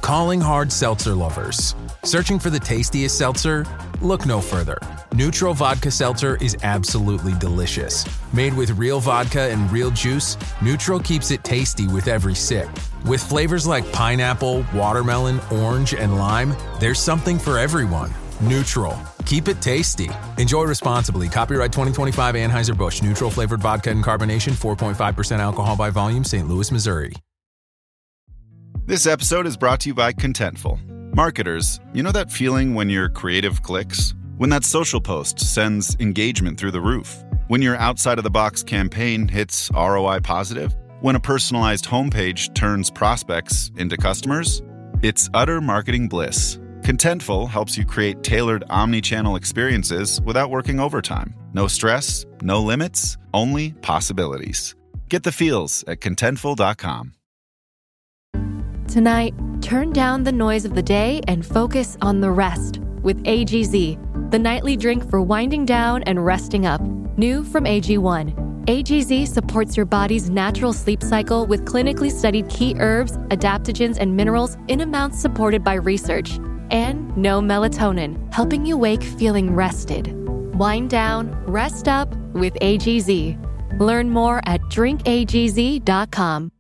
Calling hard seltzer lovers. Searching for the tastiest seltzer? Look no further. Neutral Vodka Seltzer is absolutely delicious. Made with real vodka and real juice, Neutral keeps it tasty with every sip. With flavors like pineapple, watermelon, orange, and lime, there's something for everyone. Neutral. Keep it tasty. Enjoy responsibly. Copyright 2025 Anheuser-Busch. Neutral flavored vodka and carbonation. 4.5% alcohol by volume. St. Louis, Missouri. This episode is brought to you by Contentful. Marketers, you know that feeling when your creative clicks? When that social post sends engagement through the roof? When your outside-of-the-box campaign hits ROI positive? When a personalized homepage turns prospects into customers? It's utter marketing bliss. Contentful helps you create tailored omni-channel experiences without working overtime. No stress, no limits, only possibilities. Get the feels at Contentful.com. Tonight, turn down the noise of the day and focus on the rest with AGZ, the nightly drink for winding down and resting up. New from AG1. AGZ supports your body's natural sleep cycle with clinically studied key herbs, adaptogens, and minerals in amounts supported by research. And no melatonin, helping you wake feeling rested. Wind down, rest up with AGZ. Learn more at drinkagz.com.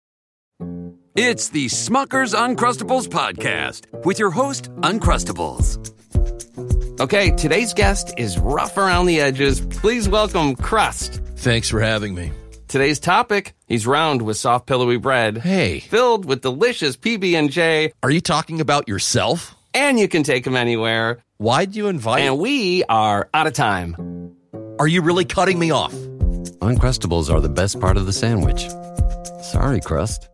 It's the Smucker's Uncrustables podcast with your host, Uncrustables. Okay, today's guest is rough around the edges. Please welcome Crust. Thanks for having me. Today's topic, he's round with soft, pillowy bread. Hey. Filled with delicious PB&J. Are you talking about yourself? And you can take him anywhere. Why'd you invite? And we are out of time. Are you really cutting me off? Uncrustables are the best part of the sandwich. Sorry, Crust.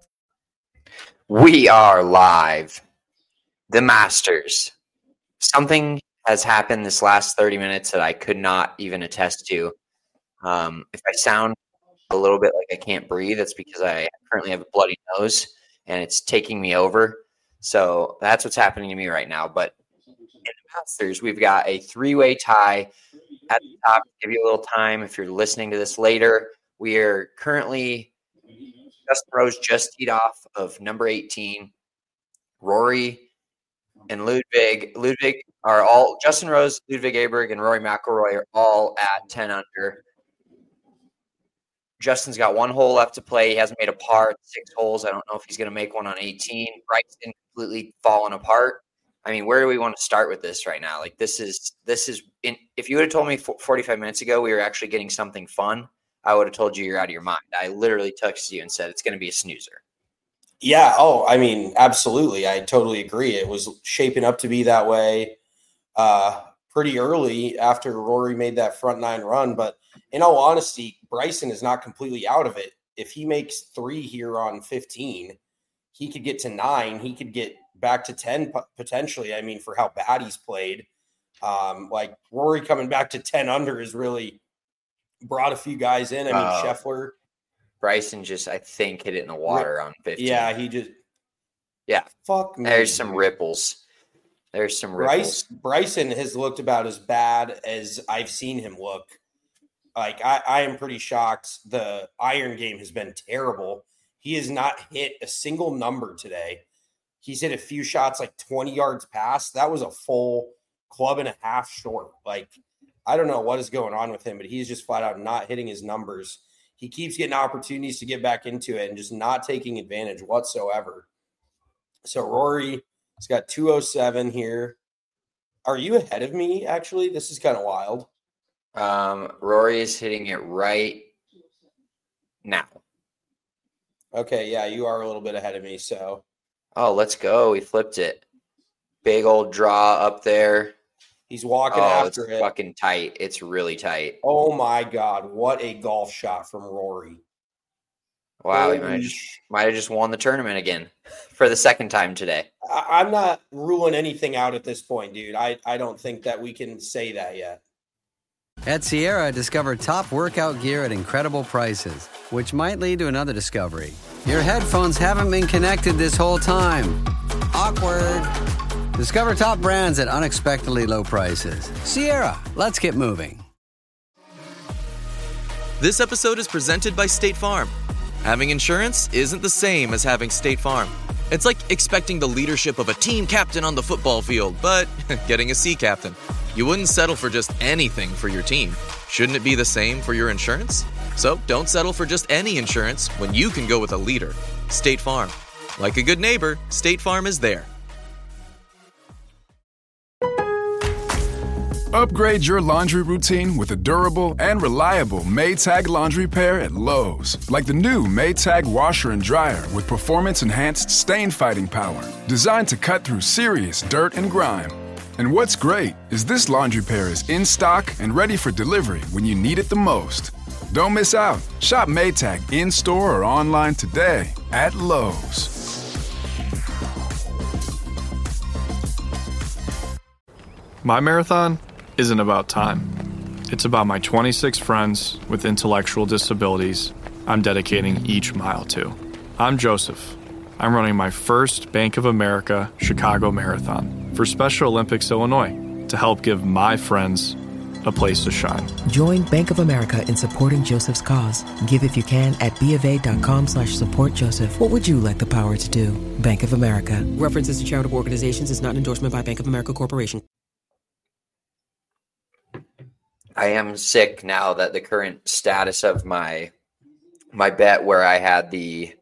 We are live. The Masters. Something has happened this last 30 minutes that I could not even attest to. If I sound a little bit like I can't breathe, it's because I currently have a bloody nose and it's taking me over. So that's what's happening to me right now. But in the Masters, we've got a three-way tie at the top. Give you a little time if you're listening to this later. We are currently Justin Rose just teed off of number 18. Rory and Ludwig. Ludwig are all Justin Rose, Ludwig Aberg, and Rory McIlroy are all at 10 under. Justin's got one hole left to play. He hasn't made a par at 6 holes. I don't know if he's going to make one on 18. Bryson completely fallen apart. I mean, where do we want to start with this right now? Like this is if you would have told me 45 minutes ago we were actually getting something fun, I would have told you you're out of your mind. I literally texted you and said it's going to be a snoozer. Yeah. Oh, I mean, absolutely. I totally agree. It was shaping up to be that way pretty early after Rory made that front 9 run. But in all honesty, Bryson is not completely out of it. If he makes 3 here on 15, he could get to 9. He could get back to 10 potentially. I mean, for how bad he's played, like Rory coming back to 10 under is really brought a few guys in. I mean, Scheffler. Bryson just, I think, hit it in the water on 15. Yeah, he just. Yeah. Fuck me. There's some ripples. Bryson has looked about as bad as I've seen him look. Like, I am pretty shocked. The iron game has been terrible. He has not hit a single number today. He's hit a few shots like 20 yards past. That was a full club and a half short. Like, I don't know what is going on with him, but he's just flat out not hitting his numbers. He keeps getting opportunities to get back into it and just not taking advantage whatsoever. So Rory has got 207 here. Are you ahead of me, actually? This is kind of wild. Rory is hitting it right now. Okay, yeah, you are a little bit ahead of me. So, oh, let's go. We flipped it. Big old draw up there. He's walking after it. It's fucking tight. It's really tight. Oh, my God. What a golf shot from Rory. Wow, he might have just won the tournament again for the second time today. I'm not ruling anything out at this point, dude. I don't think that we can say that yet. At Sierra, discover top workout gear at incredible prices, which might lead to another discovery. Your headphones haven't been connected this whole time. Awkward. Discover top brands at unexpectedly low prices. Sierra, let's get moving. This episode is presented by State Farm. Having insurance isn't the same as having State Farm. It's like expecting the leadership of a team captain on the football field, but getting a sea captain. You wouldn't settle for just anything for your team. Shouldn't it be the same for your insurance? So don't settle for just any insurance when you can go with a leader. State Farm. Like a good neighbor, State Farm is there. Upgrade your laundry routine with a durable and reliable Maytag laundry pair at Lowe's. Like the new Maytag washer and dryer with performance-enhanced stain-fighting power. Designed to cut through serious dirt and grime. And what's great is this laundry pair is in stock and ready for delivery when you need it the most. Don't miss out. Shop Maytag in-store or online today at Lowe's. My marathon isn't about time. It's about my 26 friends with intellectual disabilities I'm dedicating each mile to. I'm Joseph. I'm running my first Bank of America Chicago Marathon for Special Olympics Illinois to help give my friends a place to shine. Join Bank of America in supporting Joseph's cause. Give if you can at BofA.com/supportjoseph. What would you like the power to do? Bank of America. References to charitable organizations is not an endorsement by Bank of America Corporation. I am sick now that the current status of my bet where I had the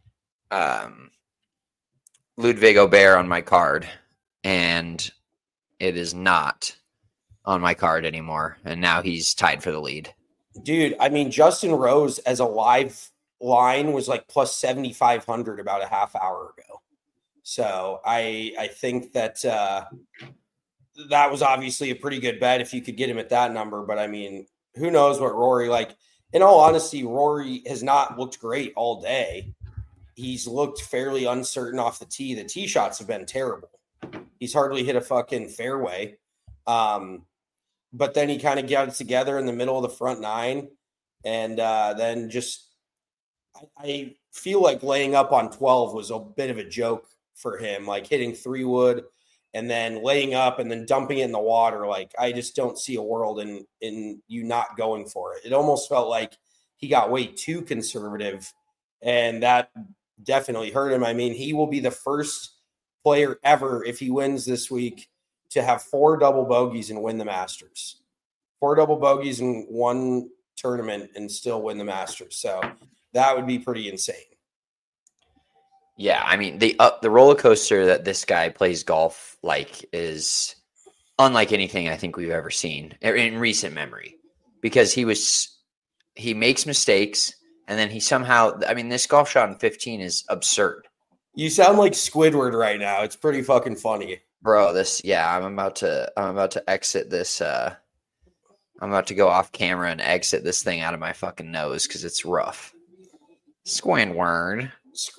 Ludwig Aubert on my card, and it is not on my card anymore, and now he's tied for the lead. Dude, I mean, Justin Rose as a live line was like plus 7,500 about a half hour ago. So I think that that was obviously a pretty good bet if you could get him at that number. But I mean, who knows what Rory, like, in all honesty, Rory has not looked great all day. He's looked fairly uncertain off the tee. The tee shots have been terrible. He's hardly hit a fucking fairway. But then he kind of got it together in the middle of the front nine. And then just, I feel like laying up on 12 was a bit of a joke for him, like hitting 3-wood and then laying up and then dumping it in the water. Like, I just don't see a world in you not going for it. It almost felt like he got way too conservative, and that definitely hurt him. I mean, he will be the first player ever, if he wins this week, to have 4 double bogeys and win the Masters. 4 double bogeys in one tournament and still win the Masters. So that would be pretty insane. Yeah, I mean, the roller coaster that this guy plays golf like is unlike anything I think we've ever seen in recent memory, because he makes mistakes and then he somehow, I mean, this golf shot in 15 is absurd. You sound like Squidward right now. It's pretty fucking funny. Bro, I'm about to exit this. I'm about to go off camera and exit this thing out of my fucking nose because it's rough. Squidward.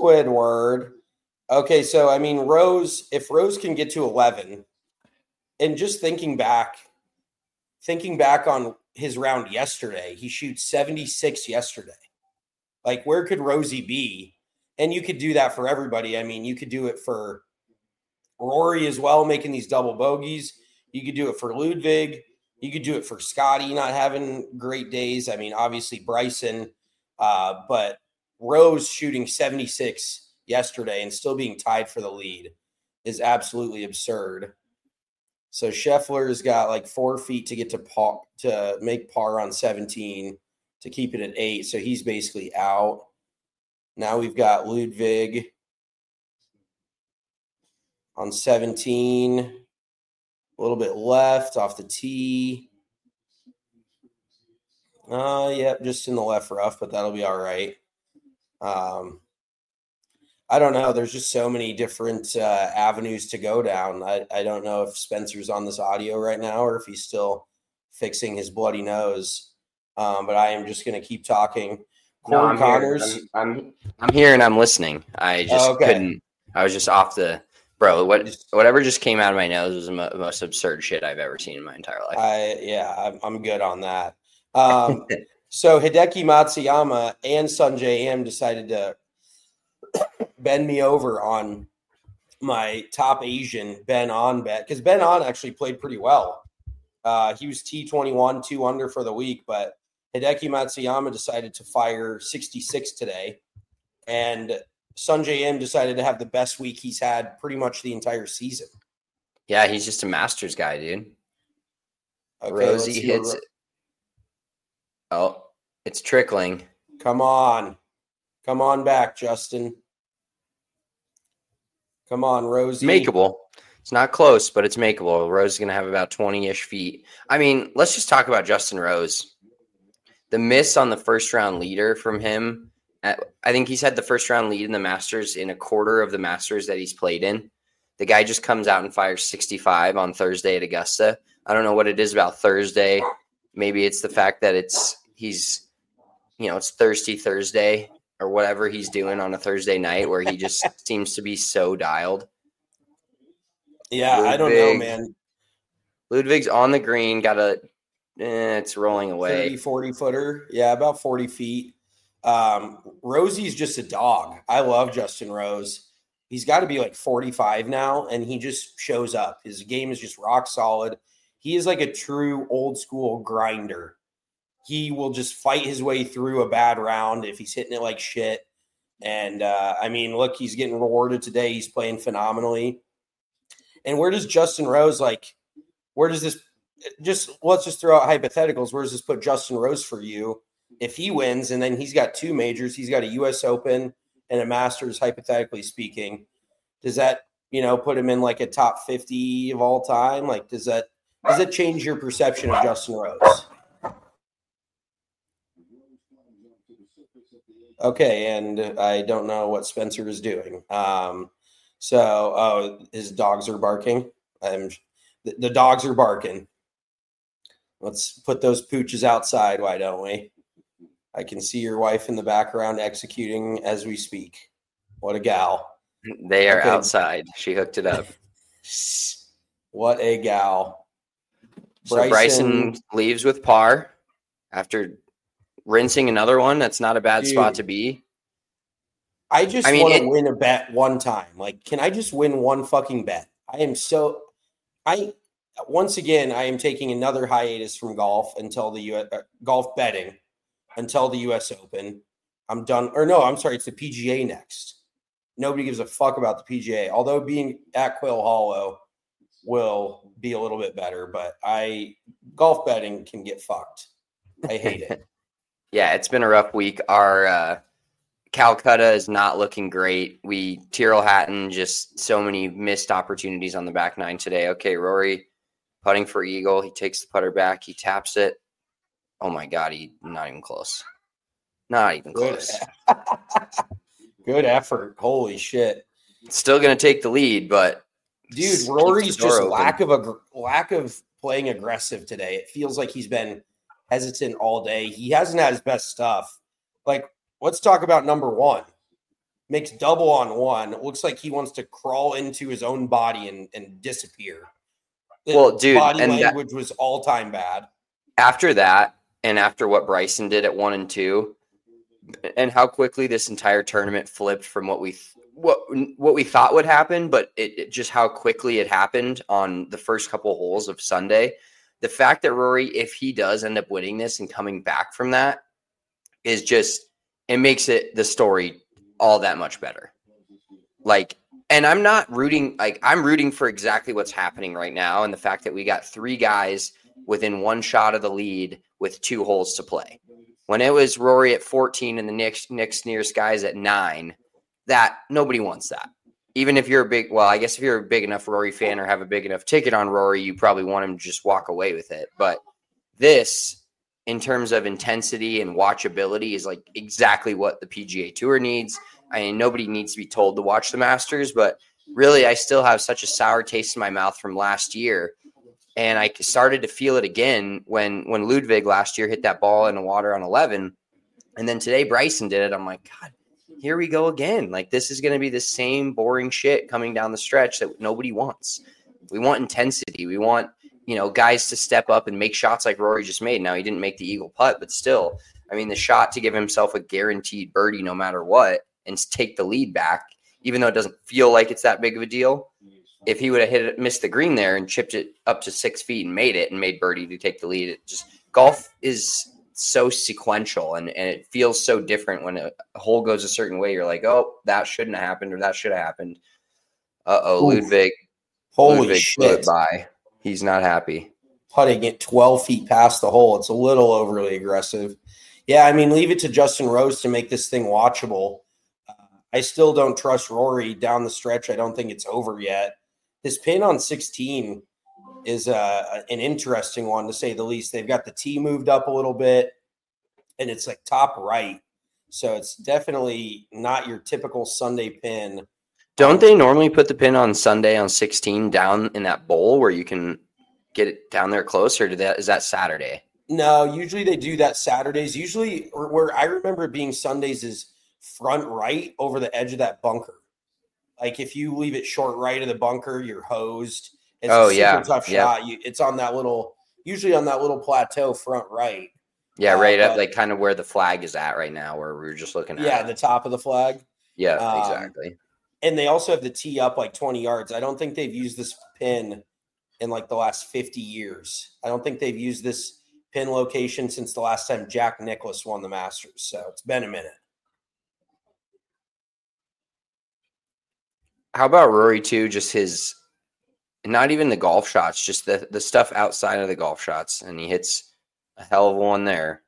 Okay, so I mean, if Rose can get to 11, and just thinking back on his round yesterday, he shoots 76 yesterday. Like, where could Rosie be? And you could do that for everybody. I mean, you could do it for Rory as well, making these double bogeys. You could do it for Ludwig. You could do it for Scotty not having great days. I mean, obviously Bryson, but Rose shooting 76 yesterday and still being tied for the lead is absolutely absurd. So Scheffler's got like 4 feet to get to make par on 17 to keep it at 8. So he's basically out. Now we've got Ludwig on 17, a little bit left off the tee. Yep, just in the left rough, but that'll be all right. I don't know. There's just so many different avenues to go down. I don't know if Spencer's on this audio right now or if he's still fixing his bloody nose. But I am just going to keep talking. Corey Connors. I'm here and I'm listening. I just couldn't. I was just off the bro. Whatever just came out of my nose was the most absurd shit I've ever seen in my entire life. I'm good on that. So Hideki Matsuyama and Sungjae Im decided to bend me over on my top Asian Ben On bet, because Ben On actually played pretty well. He was T21, 2 under for the week, but Hideki Matsuyama decided to fire 66 today. And Sungjae Im decided to have the best week he's had pretty much the entire season. Yeah, he's just a Masters guy, dude. Okay, Rosie hits it. Oh, it's trickling. Come on. Come on back, Justin. Come on, Rosie. Makeable. It's not close, but it's makeable. Rose is going to have about 20-ish feet. I mean, let's just talk about Justin Rose. The miss on the first-round leader from him, I think he's had the first-round lead in the Masters in a quarter of the Masters that he's played in. The guy just comes out and fires 65 on Thursday at Augusta. I don't know what it is about Thursday. Maybe it's the fact that it's Thirsty Thursday or whatever he's doing on a Thursday night where he just seems to be so dialed. Yeah, Ludwig, I don't know, man. Ludwig's on the green, it's rolling away. 30, 40 footer. Yeah, about 40 feet. Rosie's just a dog. I love Justin Rose. He's got to be like 45 now, and he just shows up. His game is just rock solid. He is like a true old school grinder. He will just fight his way through a bad round if he's hitting it like shit. And, look, he's getting rewarded today. He's playing phenomenally. And where does Justin Rose, let's just throw out hypotheticals. Where does this put Justin Rose for you if he wins? And then he's got 2 majors. He's got a U.S. Open and a Masters, hypothetically speaking. Does that, put him in like a top 50 of all time? Like, does that change your perception of Justin Rose? Okay, and I don't know what Spencer is doing. His dogs are barking. The dogs are barking. Let's put those pooches outside, why don't we? I can see your wife in the background executing as we speak. What a gal. They are outside. She hooked it up. What a gal. So Bryson leaves with par after rinsing another one. That's not a bad spot to be. I want to win a bet one time. Like, can I just win one fucking bet? I am taking another hiatus from golf until the golf betting until the U.S. Open. I'm done. Or no, I'm sorry. It's the PGA next. Nobody gives a fuck about the PGA. Although being at Quail Hollow will be a little bit better, but golf betting can get fucked. I hate it. Yeah, it's been a rough week. Our Calcutta is not looking great. Tyrrell Hatton, just so many missed opportunities on the back nine today. Okay, Rory putting for eagle. He takes the putter back. He taps it. Oh, my God. Not even close. Not even close. Good effort. Holy shit. Still going to take the lead, but dude, Rory's just lack of playing aggressive today. It feels like he's been hesitant all day. He hasn't had his best stuff. Like, let's talk about number one. Makes double on one. It looks like he wants to crawl into his own body and disappear. Well, dude, body language was all time bad. After that, and after what Bryson did at 1 and 2, and how quickly this entire tournament flipped from what we thought would happen, but it just how quickly it happened on the first couple holes of Sunday. The fact that Rory, if he does end up winning this and coming back from that, is just, it makes the story all that much better. Like, and I'm not rooting, I'm rooting for exactly what's happening right now. And the fact that we got 3 guys within 1 shot of the lead with 2 holes to play. When it was Rory at 14 and the next nearest guys at 9, that nobody wants that. Even if you're if you're a big enough Rory fan or have a big enough ticket on Rory, you probably want him to just walk away with it. But this, in terms of intensity and watchability, is like exactly what the PGA Tour needs. I mean, nobody needs to be told to watch the Masters, but really, I still have such a sour taste in my mouth from last year. And I started to feel it again when Ludwig last year hit that ball in the water on 11. And then today Bryson did it. I'm like, God, here we go again. Like, this is going to be the same boring shit coming down the stretch that nobody wants. We want intensity. We want, guys to step up and make shots like Rory just made. Now, he didn't make the eagle putt, but still, I mean, the shot to give himself a guaranteed birdie no matter what and take the lead back, even though it doesn't feel like it's that big of a deal. If he would have missed the green there and chipped it up to 6 feet and made birdie to take the lead, golf is so sequential and it feels so different when a hole goes a certain way. You're like, oh, that shouldn't have happened or that should have happened. Ludwig. Holy Ludwig blew shit. it by. He's not happy. Putting it 12 feet past the hole. It's a little overly aggressive. Yeah, I mean, leave it to Justin Rose to make this thing watchable. I still don't trust Rory down the stretch. I don't think it's over yet. His pin on 16 is an interesting one, to say the least. They've got the tee moved up a little bit, and it's like top right. So it's definitely not your typical Sunday pin. Don't they normally put the pin on Sunday on 16 down in that bowl where you can get it down there close, or is that Saturday? No, usually they do that Saturdays. Usually, where I remember it being Sundays is front right over the edge of that bunker. Like if you leave it short right of the bunker, you're hosed. It's a super tough shot. It's on that usually on that little plateau front right. Yeah, right up like kind of where the flag is at right now, where we were just looking at. Yeah, the top of the flag. Yeah, exactly. And they also have the tee up like 20 yards. I don't think they've used this pin in like the last 50 years. I don't think they've used this pin location since the last time Jack Nicklaus won the Masters. So it's been a minute. How about Rory too? Just his, not even the golf shots, just the stuff outside of the golf shots. And he hits a hell of a one there.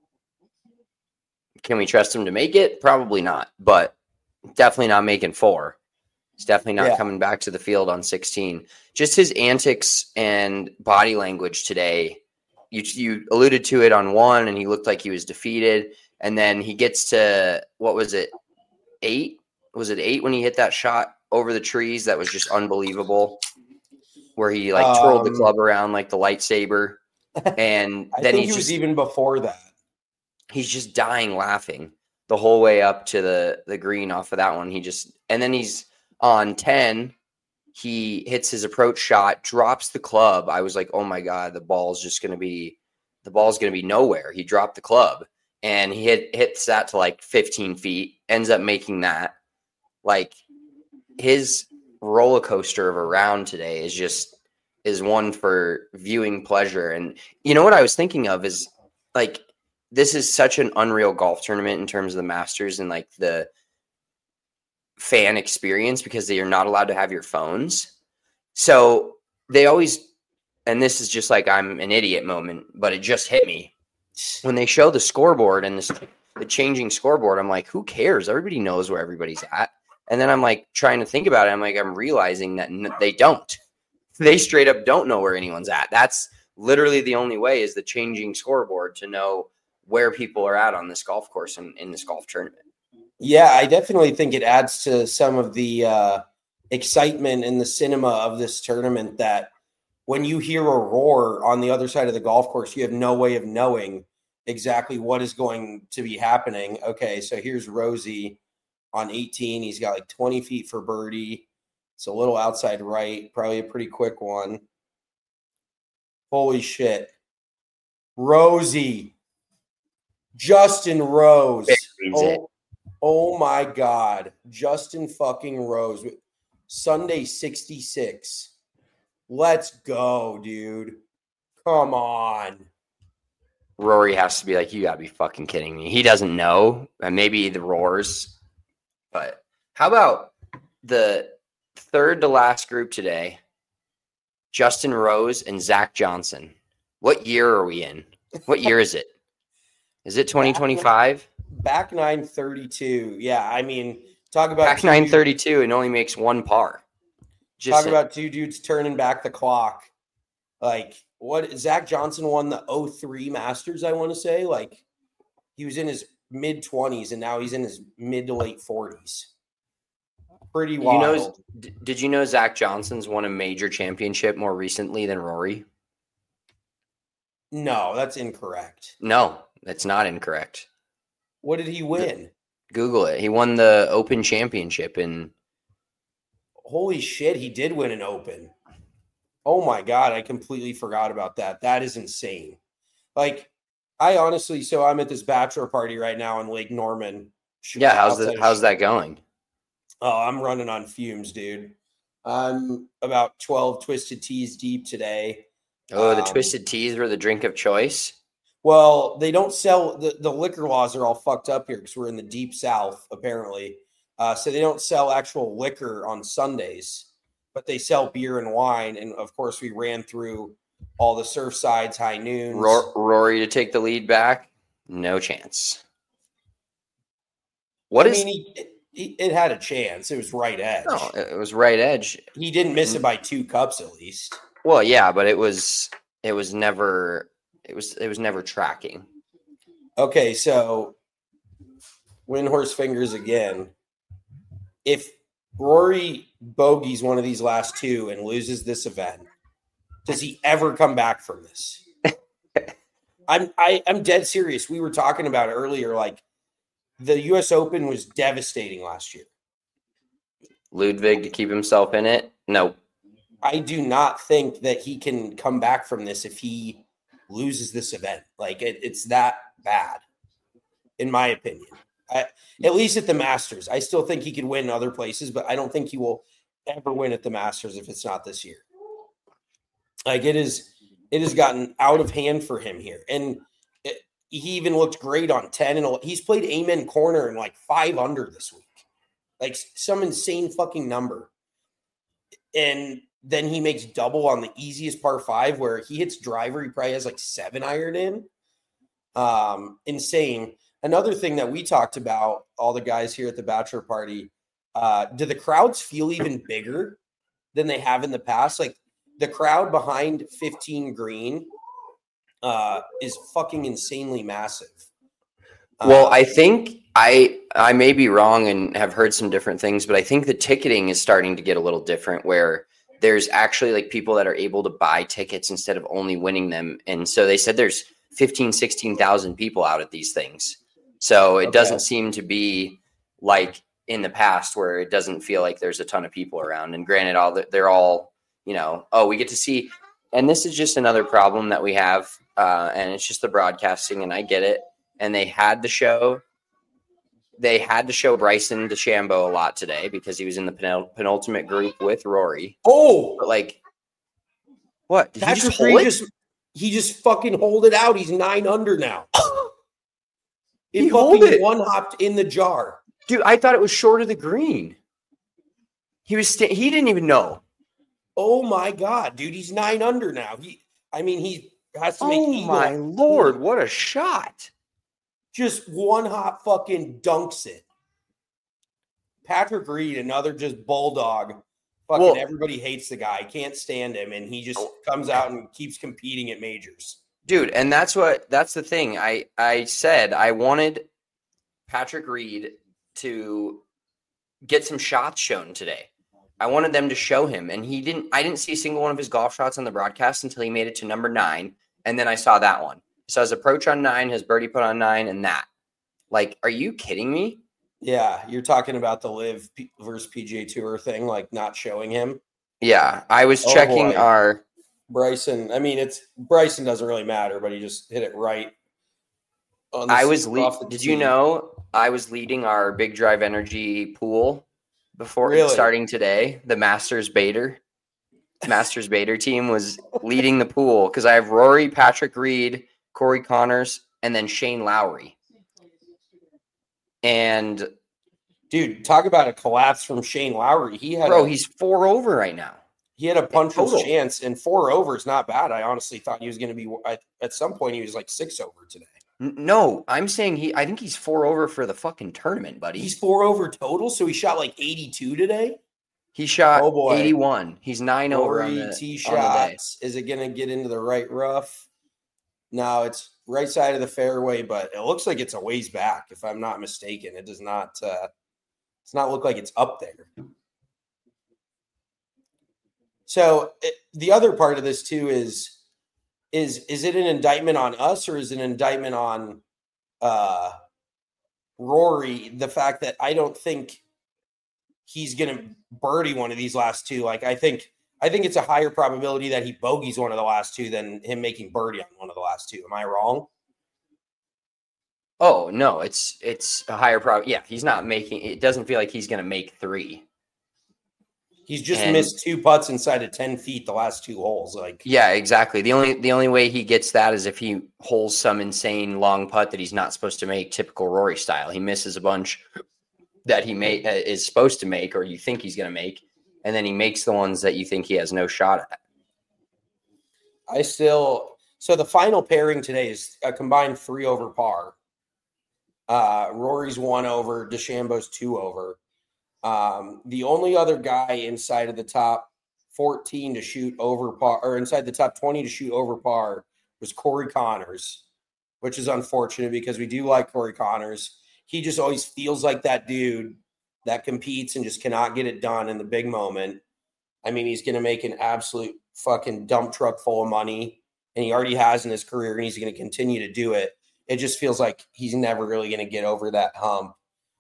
Can we trust him to make it? Probably not, but definitely not making 4. He's definitely not coming back to the field on 16. Just his antics and body language today. You alluded to it on 1, and he looked like he was defeated. And then he gets to, what was it, 8? Was it 8 when he hit that shot over the trees? That was just unbelievable. Where he like twirled the club around like the lightsaber. And then he was even before that. He's just dying laughing the whole way up to the green off of that one. And then he's on 10. He hits his approach shot, drops the club. I was like, oh my God, the ball's going to be nowhere. He dropped the club and he hits that to like 15 feet, ends up making that. Like his roller coaster of a round today is one for viewing pleasure. And you know what I was thinking of is like, this is such an unreal golf tournament in terms of the Masters and like the fan experience, because they are not allowed to have your phones. So they always, and this is just like I'm an idiot moment, but it just hit me when they show the scoreboard and the changing scoreboard. I'm like, who cares? Everybody knows where everybody's at. And then I'm like trying to think about it. I'm realizing that they don't. They straight up don't know where anyone's at. That's literally the only way, is the changing scoreboard to know where people are at on this golf course and in this golf tournament. Yeah, I definitely think it adds to some of the excitement in the cinema of this tournament, that when you hear a roar on the other side of the golf course, you have no way of knowing exactly what is going to be happening. Okay, so here's Rosie on 18. He's got like 20 feet for birdie. It's a little outside right, probably a pretty quick one. Holy shit. Rosie. Justin Rose. Oh my God. Justin fucking Rose. Sunday 66. Let's go, dude. Come on. Rory has to be like, you gotta be fucking kidding me. He doesn't know. And maybe the roars. But how about the third to last group today? Justin Rose and Zach Johnson. What year are we in? What year is it? Is it 2025? Back 932. Yeah, I mean, talk about back 932 and only makes 1 par. Talk about 2 dudes turning back the clock. Like, what? Zach Johnson won the 03 Masters, I want to say. Like, he was in his mid-20s, and now he's in his mid to late 40s. Pretty wild. Did you know Zach Johnson's won a major championship more recently than Rory? No, that's incorrect. No, that's not incorrect. What did he win? Google it. He won the Open Championship in. Holy shit, he did win an Open. Oh my God, I completely forgot about that. That is insane. Like, I honestly, so I'm at this bachelor party right now in Lake Norman. Yeah, how's that going? Oh, I'm running on fumes, dude. I'm about 12 twisted teas deep today. Oh, the twisted teas were the drink of choice? Well, they don't sell the liquor laws are all fucked up here because we're in the deep South, apparently. So they don't sell actual liquor on Sundays, but they sell beer and wine. And of course, we ran through all the Surfsides, High Noons. Rory to take the lead back? No chance. It had a chance. It was right edge. No, it was right edge. He didn't miss it by 2 cups at least. Well, yeah, but it was never tracking. Okay, so Windhorse fingers again. If Rory bogeys one of these last 2 and loses this event, does he ever come back from this? I'm dead serious. We were talking about it earlier. Like the U.S. Open was devastating last year. Ludwig to keep himself in it? No. I do not think that he can come back from this if he loses this event. Like it's that bad, in my opinion. At least at the Masters. I still think he could win other places, but I don't think he will ever win at the Masters if it's not this year. Like it has gotten out of hand for him here. And he even looked great on 10 and he's played Amen Corner in like 5 under this week. Like some insane fucking number. And then he makes double on the easiest par 5 where he hits driver. He probably has like 7 iron in. Insane. Another thing that we talked about, all the guys here at the bachelor party, do the crowds feel even bigger than they have in the past? Like the crowd behind 15 green is fucking insanely massive. Well, I think I may be wrong and have heard some different things, but I think the ticketing is starting to get a little different where there's actually like people that are able to buy tickets instead of only winning them. And so they said there's 16,000 people out at these things. So it doesn't seem to be like in the past where it doesn't feel like there's a ton of people around. And granted, they're all, we get to see. And this is just another problem that we have. And it's just the broadcasting, and I get it. And they had to show Bryson DeChambeau a lot today because he was in the penultimate group with Rory. Oh, but like, what? Did he just fucking hold it out. He's 9 under now. He fucking one hopped in the jar. Dude, I thought it was short of the green. He didn't even know. Oh my God, dude, he's 9 under now. He has to make eagle. My Lord, what a shot. Just one hop fucking dunks it. Patrick Reed, another just bulldog. Fucking everybody hates the guy. Can't stand him. And he just comes out and keeps competing at majors. Dude, and that's the thing. I said I wanted Patrick Reed to get some shots shown today. I wanted them to show him, and I didn't see a single one of his golf shots on the broadcast until he made it to number 9, and then I saw that one. So his approach on 9, his birdie put on 9, and that. Like, are you kidding me? Yeah, you're talking about the Live versus PGA Tour thing, like not showing him. Yeah, I was checking our Bryson. I mean, Bryson doesn't really matter, but he just hit it right. Did you know I was leading our Big Drive Energy pool before starting today? The Masters Bader team was leading the pool because I have Rory, Patrick Reed, Corey Connors, and then Shane Lowry. And dude, talk about a collapse from Shane Lowry. He's 4 over right now. He had a puncher's chance, and 4 over is not bad. I honestly thought he was going to be at some point. He was like 6 over today. No, I'm saying I think he's 4 over for the fucking tournament, buddy. He's 4 over total, so he shot like 82 today. He shot 81. He's 9 over on the tee shots. Is it going to get into the right rough? No, it's right side of the fairway, but it looks like it's a ways back. If I'm not mistaken, it does not. Does not look like it's up there. So the other part of this too is it an indictment on us or is it an indictment on Rory? The fact that I don't think he's going to birdie one of these last 2. Like I think it's a higher probability that he bogeys one of the last 2 than him making birdie on one of the last 2. Am I wrong? Oh no, it's a higher probability. Yeah, he's not making. It doesn't feel like he's going to make 3. He's just missed 2 putts inside of 10 feet the last 2 holes. Yeah, exactly. The only way he gets that is if he holes some insane long putt that he's not supposed to make, typical Rory style. He misses a bunch that he is supposed to make, or you think he's going to make, and then he makes the ones that you think he has no shot at. So the final pairing today is a combined 3 over par. Rory's 1 over, DeChambeau's 2 over. The only other guy inside of the top 14 to shoot over par, or inside the top 20 to shoot over par, was Corey Connors, which is unfortunate because we do like Corey Connors. He just always feels like that dude that competes and just cannot get it done in the big moment. I mean, he's going to make an absolute fucking dump truck full of money, and he already has in his career, and he's going to continue to do it. It just feels like he's never really going to get over that hump.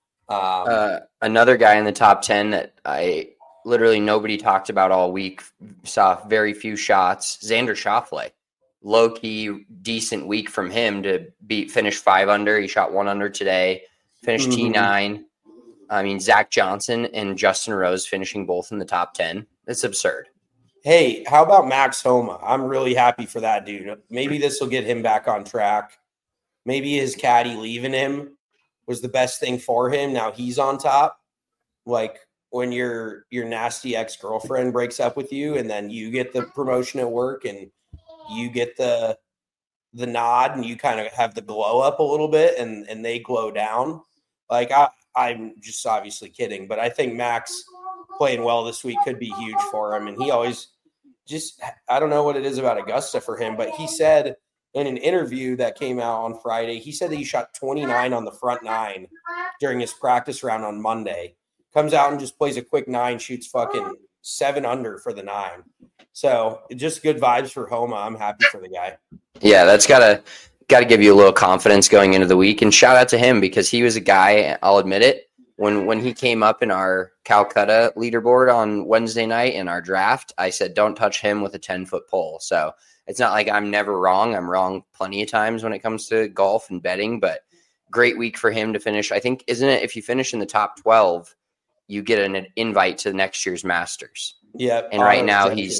Another guy in the top 10 that literally nobody talked about all week, saw very few shots, Xander Schauffele. Low-key, decent week from him to finish 5 under. He shot 1 under today, finished T9. I mean, Zach Johnson and Justin Rose finishing both in the top 10. It's absurd. Hey, how about Max Homa? I'm really happy for that dude. Maybe this will get him back on track. Maybe his caddy leaving him was the best thing for him. Now he's on top. Like when your nasty ex-girlfriend breaks up with you and then you get the promotion at work and you get the nod and you kind of have the glow up a little bit and they glow down. Like I'm just obviously kidding, but I think Max playing well this week could be huge for him. And he always I don't know what it is about Augusta for him, but he said in an interview that came out on Friday, he said that he shot 29 on the front 9 during his practice round on Monday. Comes out and just plays a quick 9, shoots fucking 7 under for the 9. So just good vibes for Homa. I'm happy for the guy. Yeah, that's gotta give you a little confidence going into the week. And shout out to him because he was a guy, I'll admit it, when he came up in our Calcutta leaderboard on Wednesday night in our draft, I said, don't touch him with a 10-foot pole. So it's not like I'm never wrong. I'm wrong plenty of times when it comes to golf and betting, but great week for him to finish. I think, isn't it, if you finish in the top 12, you get an invite to next year's Masters. Yeah. And right now he's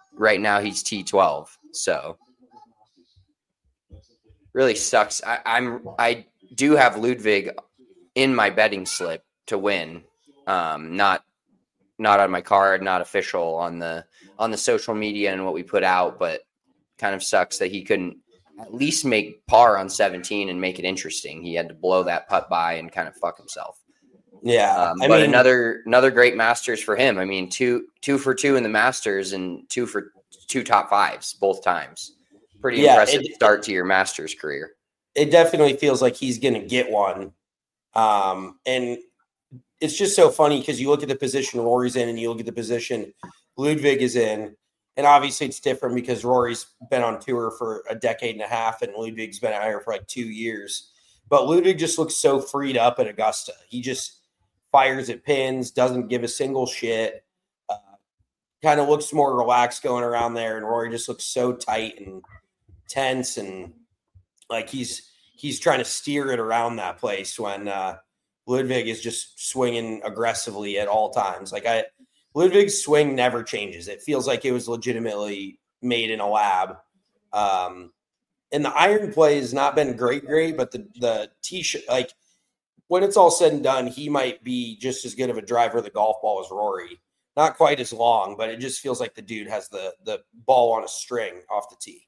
T12. So really sucks. I do have Ludwig in my betting slip to win. Not on my card, not official on the social media and what we put out, but kind of sucks that he couldn't at least make par on 17 and make it interesting. He had to blow that putt by and kind of fuck himself. Yeah. But another great Masters for him. I mean, two for 2 in the Masters and 2 for 2 top 5s both times. Pretty impressive start to your Masters career. It definitely feels like he's going to get one. And it's just so funny because you look at the position Rory's in and you look at the position Ludwig is in. And obviously it's different because Rory's been on tour for a decade and a half and Ludwig's been out here for like 2 years. But Ludwig just looks so freed up at Augusta. He just fires at pins, doesn't give a single shit, kind of looks more relaxed going around there. And Rory just looks so tight and tense and like he's trying to steer it around that place when Ludwig is just swinging aggressively at all times. Ludwig's swing never changes. It feels like it was legitimately made in a lab. And the iron play has not been great, but the tee shot, like when it's all said and done, he might be just as good of a driver of the golf ball as Rory. Not quite as long, but it just feels like the dude has the ball on a string off the tee.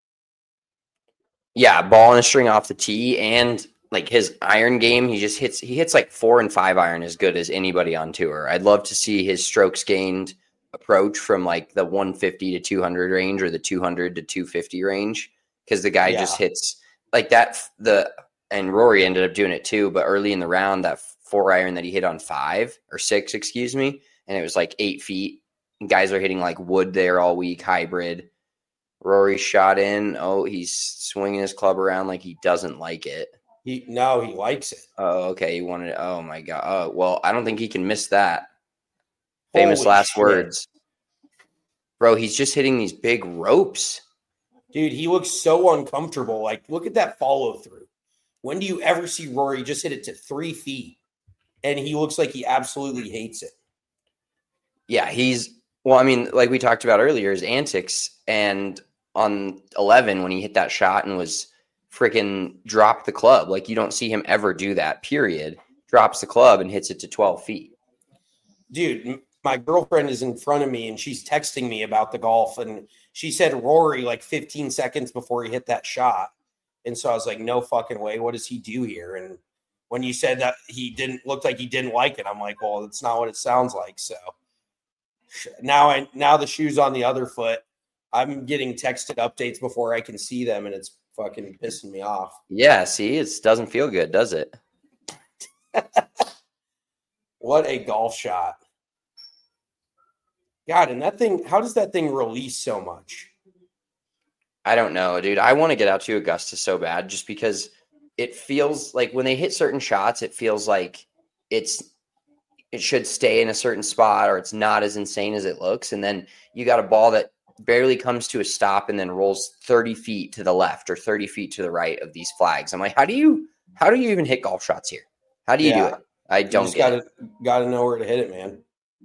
Yeah, ball on a string off the tee, and like his iron game, he hits like 4 and 5 iron as good as anybody on tour. I'd love to see his strokes gained approach from like the 150 to 200 range or the 200 to 250 range. Because the guy just hits like that. And Rory ended up doing it too. But early in the round, that 4 iron that he hit on 5 or 6, excuse me, and it was like 8 feet. And guys are hitting like wood there all week, hybrid. Rory shot in. Oh, he's swinging his club around like he doesn't like it. He likes it. Oh, okay. He wanted it. Oh my God. Oh, well, I don't think he can miss that. Famous last words. Bro, he's just hitting these big ropes. Dude, he looks so uncomfortable. Like, look at that follow through. When do you ever see Rory just hit it to 3 feet? And he looks like he absolutely hates it. Yeah, well, I mean, like we talked about earlier, his antics, and on 11 when he hit that shot and was freaking dropped the club. Like, you don't see him ever do that, period. Drops the club and hits it to 12 feet. Dude, my girlfriend is in front of me and she's texting me about the golf, and she said Rory like 15 seconds before he hit that shot. And so I was like, no fucking way. What does he do here? And when you said that looked like he didn't like it, I'm like, well, that's not what it sounds like. So now the shoe's on the other foot. I'm getting texted updates before I can see them, and it's fucking pissing me off. Yeah, see, it doesn't feel good, does it? What a golf shot. God, and that thing, how does that thing release so much? I don't know, dude. I want to get out to Augusta so bad just because it feels like when they hit certain shots, it feels like it should stay in a certain spot, or it's not as insane as it looks. And then you got a ball that barely comes to a stop and then rolls 30 feet to the left or 30 feet to the right of these flags. I'm like, how do you even hit golf shots here? How do you do it? I don't get it. Got to know where to hit it, man.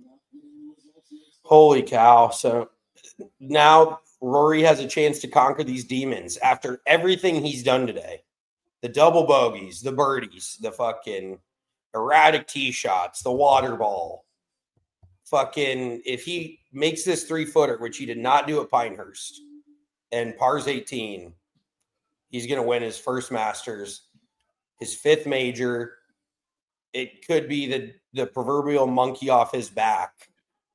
Holy cow. So now Rory has a chance to conquer these demons after everything he's done today. The double bogeys, the birdies, the fucking erratic tee shots, the water ball. Fucking, if he makes this 3-footer, which he did not do at Pinehurst, and pars 18, he's going to win his first Masters, his 5th major. It could be the proverbial monkey off his back.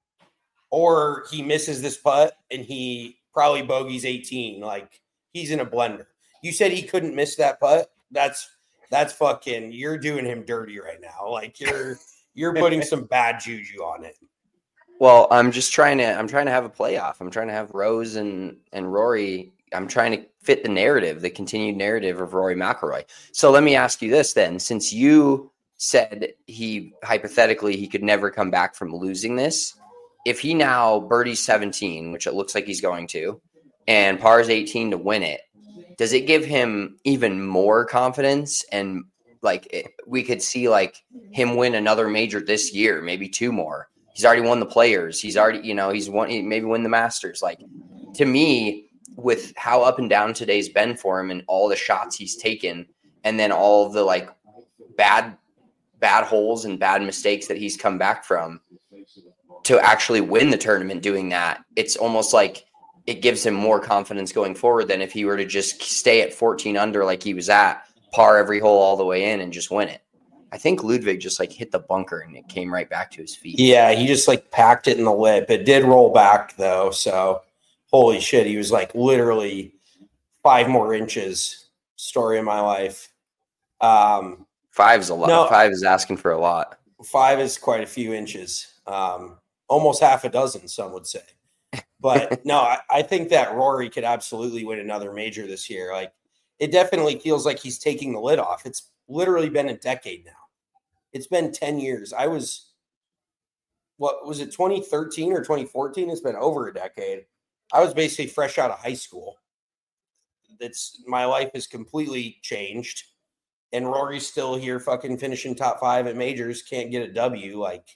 Or he misses this putt and he probably bogeys 18. Like, he's in a blender. You said he couldn't miss that putt? That's fucking, you're doing him dirty right now. Like, you're putting some bad juju on it. Well, I'm trying to have a playoff. I'm trying to have Rose and Rory. I'm trying to fit the continued narrative of Rory McIlroy. So let me ask you this then. Since you said hypothetically he could never come back from losing this, if he now birdies 17, which it looks like he's going to, and pars 18 to win it, does it give him even more confidence? And we could see like him win another major this year, maybe 2 more. He's already won the Players. He's already, he's won, maybe win the Masters. Like, to me, with how up and down today's been for him and all the shots he's taken, and then all of the like bad holes and bad mistakes that he's come back from, to actually win the tournament doing that, it's almost like it gives him more confidence going forward than if he were to just stay at 14 under like he was at, par every hole all the way in and just win it. I think Ludwig just like hit the bunker and it came right back to his feet. Yeah, he just like packed it in the lip. It did roll back though, so holy shit, he was like literally 5 more inches. Story of my life. 5's a lot. No, 5 is asking for a lot. 5 is quite a few inches. Almost half a dozen, some would say. But no, I think that Rory could absolutely win another major this year. Like, it definitely feels like he's taking the lid off. It's literally been a decade now. It's been 10 years. What was it, 2013 or 2014? It's been over a decade. I was basically fresh out of high school. My life has completely changed. And Rory's still here fucking finishing top 5 at majors, can't get a W. Like,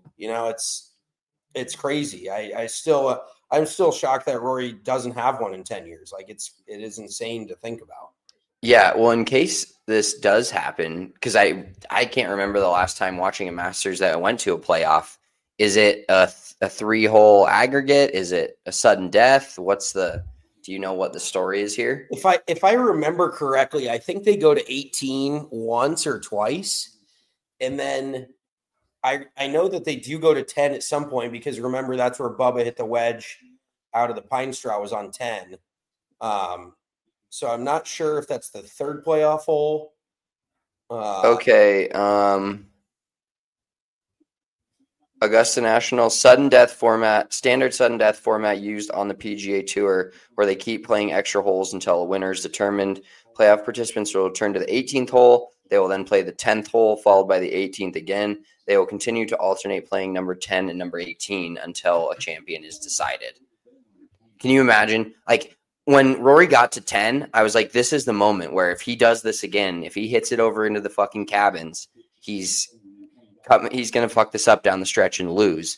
it's crazy. I'm still shocked that Rory doesn't have one in 10 years. Like, it is insane to think about. Yeah, well, in case this does happen, because I can't remember the last time watching a Masters that went to a playoff. Is it a 3-hole aggregate? Is it a sudden death? Do you know what the story is here? If I remember correctly, I think they go to 18 once or twice. And then I know that they do go to 10 at some point, because remember, that's where Bubba hit the wedge out of the pine straw, was on 10. So I'm not sure if that's the 3rd playoff hole. Okay. Augusta National standard sudden death format used on the PGA Tour, where they keep playing extra holes until a winner is determined. Playoff participants will return to the 18th hole. They will then play the 10th hole, followed by the 18th again. They will continue to alternate playing number 10 and number 18 until a champion is decided. Can you imagine? Like, when Rory got to 10, I was like, this is the moment where if he does this again, if he hits it over into the fucking cabins, he's going to fuck this up down the stretch and lose.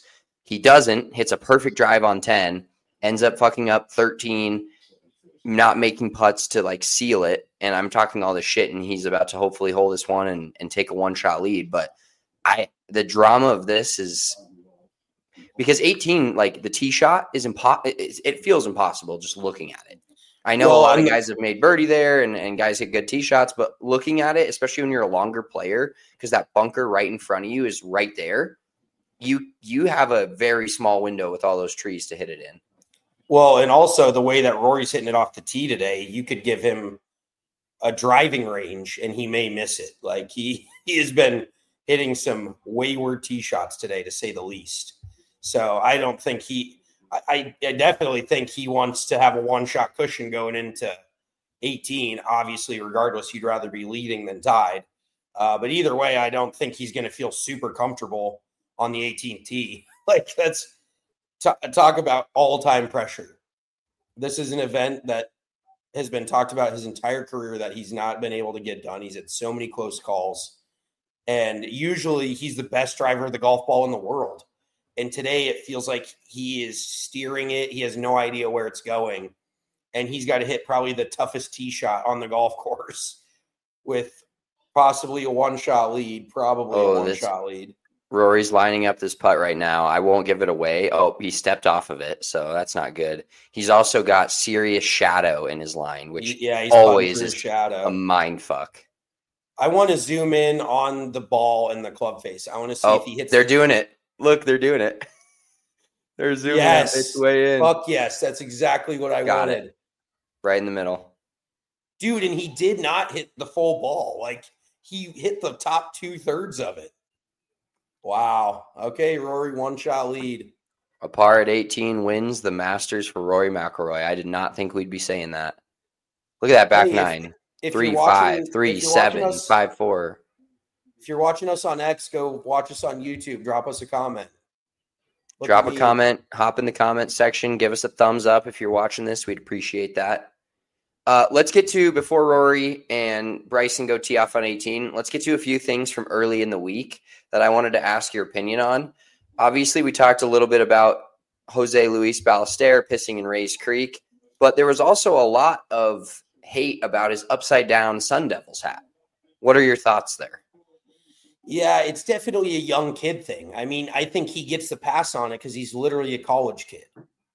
He doesn't, hits a perfect drive on 10, ends up fucking up 13, not making putts to like seal it. And I'm talking all this shit, and he's about to hopefully hold this one and take a one-shot lead. But the drama of this is because 18, like the tee shot is it feels impossible just looking at it. I know a lot of guys have made birdie there and guys hit good tee shots, but looking at it, especially when you're a longer player, because that bunker right in front of you is right there, you have a very small window with all those trees to hit it in. Well, and also the way that Rory's hitting it off the tee today, you could give him a driving range and he may miss it. Like he has been hitting some wayward tee shots today, to say the least. So I don't think I definitely think he wants to have a one-shot cushion going into 18. Obviously, regardless, he'd rather be leading than tied. But either way, I don't think he's going to feel super comfortable on the 18th tee. Like, that's talk about all-time pressure. This is an event that has been talked about his entire career that he's not been able to get done. He's had so many close calls. And usually he's the best driver of the golf ball in the world. And today it feels like he is steering it. He has no idea where it's going. And he's got to hit probably the toughest tee shot on the golf course with possibly a one-shot lead, lead. Rory's lining up this putt right now. I won't give it away. Oh, he stepped off of it, so that's not good. He's also got serious shadow in his line, which he's always is shadow. A mind fuck. I want to zoom in on the ball and the club face. I want to see if he hits. They're doing it. Look, they're doing it. They're zooming its way in. Fuck yes. That's exactly what I wanted. It. Right in the middle. Dude, and he did not hit the full ball. Like, he hit the top 2/3 of it. Wow. Okay, Rory, one-shot lead. A par at 18 wins the Masters for Rory McIlroy. I did not think we'd be saying that. Look at that back nine. 3-5, 3-7, 5-4. If you're watching us on X, go watch us on YouTube. Drop us a comment. Drop a comment. Hop in the comment section. Give us a thumbs up if you're watching this. We'd appreciate that. Let's get to, before Rory and Bryson go tee off on 18, let's get to a few things from early in the week that I wanted to ask your opinion on. Obviously, we talked a little bit about Jose Luis Ballester pissing in Rays Creek, but there was also a lot of hate about his upside-down Sun Devils hat. What are your thoughts there? Yeah, it's definitely a young kid thing. I mean, I think he gets the pass on it because he's literally a college kid.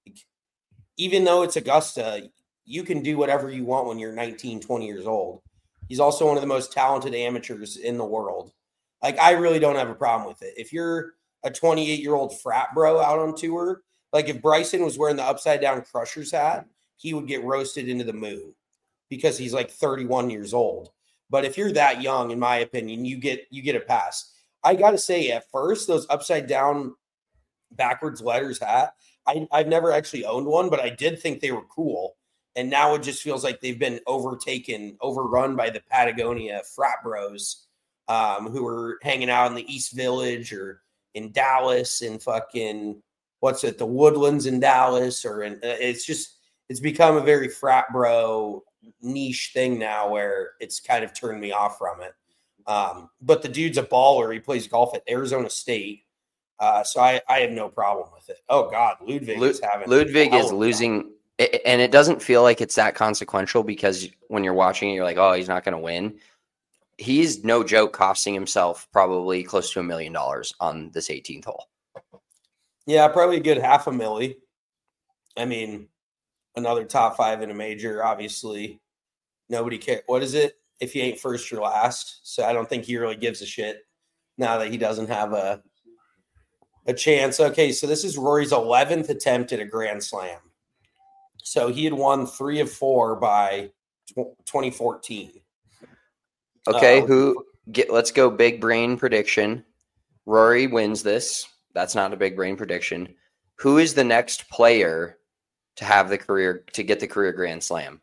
Even though it's Augusta, you can do whatever you want when you're 19, 20 years old. He's also one of the most talented amateurs in the world. Like, I really don't have a problem with it. If you're a 28-year-old frat bro out on tour, like if Bryson was wearing the upside-down Crushers hat, he would get roasted into the moon because he's like 31 years old. But if you're that young, in my opinion, you get a pass. I got to say, at first, those upside-down backwards letters hat, I've never actually owned one, but I did think they were cool. And now it just feels like they've been overrun by the Patagonia frat bros who are hanging out in the East Village or in Dallas and fucking, the Woodlands in Dallas. It's become a very frat bro niche thing now where it's kind of turned me off from it. But the dude's a baller. He plays golf at Arizona State. So I have no problem with it. Oh, God, Ludwig is losing. And it doesn't feel like it's that consequential because when you're watching it, you're like, oh, he's not going to win. He's no joke costing himself probably close to $1 million on this 18th hole. Yeah, probably a good $500,000. I mean, another top 5 in a major, obviously. Nobody cares. What is it? If you ain't first, you're last. So I don't think he really gives a shit now that he doesn't have a chance. Okay, so this is Rory's 11th attempt at a Grand Slam. So he had won 3 of 4 by 2014. Okay, let's go big brain prediction. Rory wins this. That's not a big brain prediction. Who is the next player to get the career Grand Slam?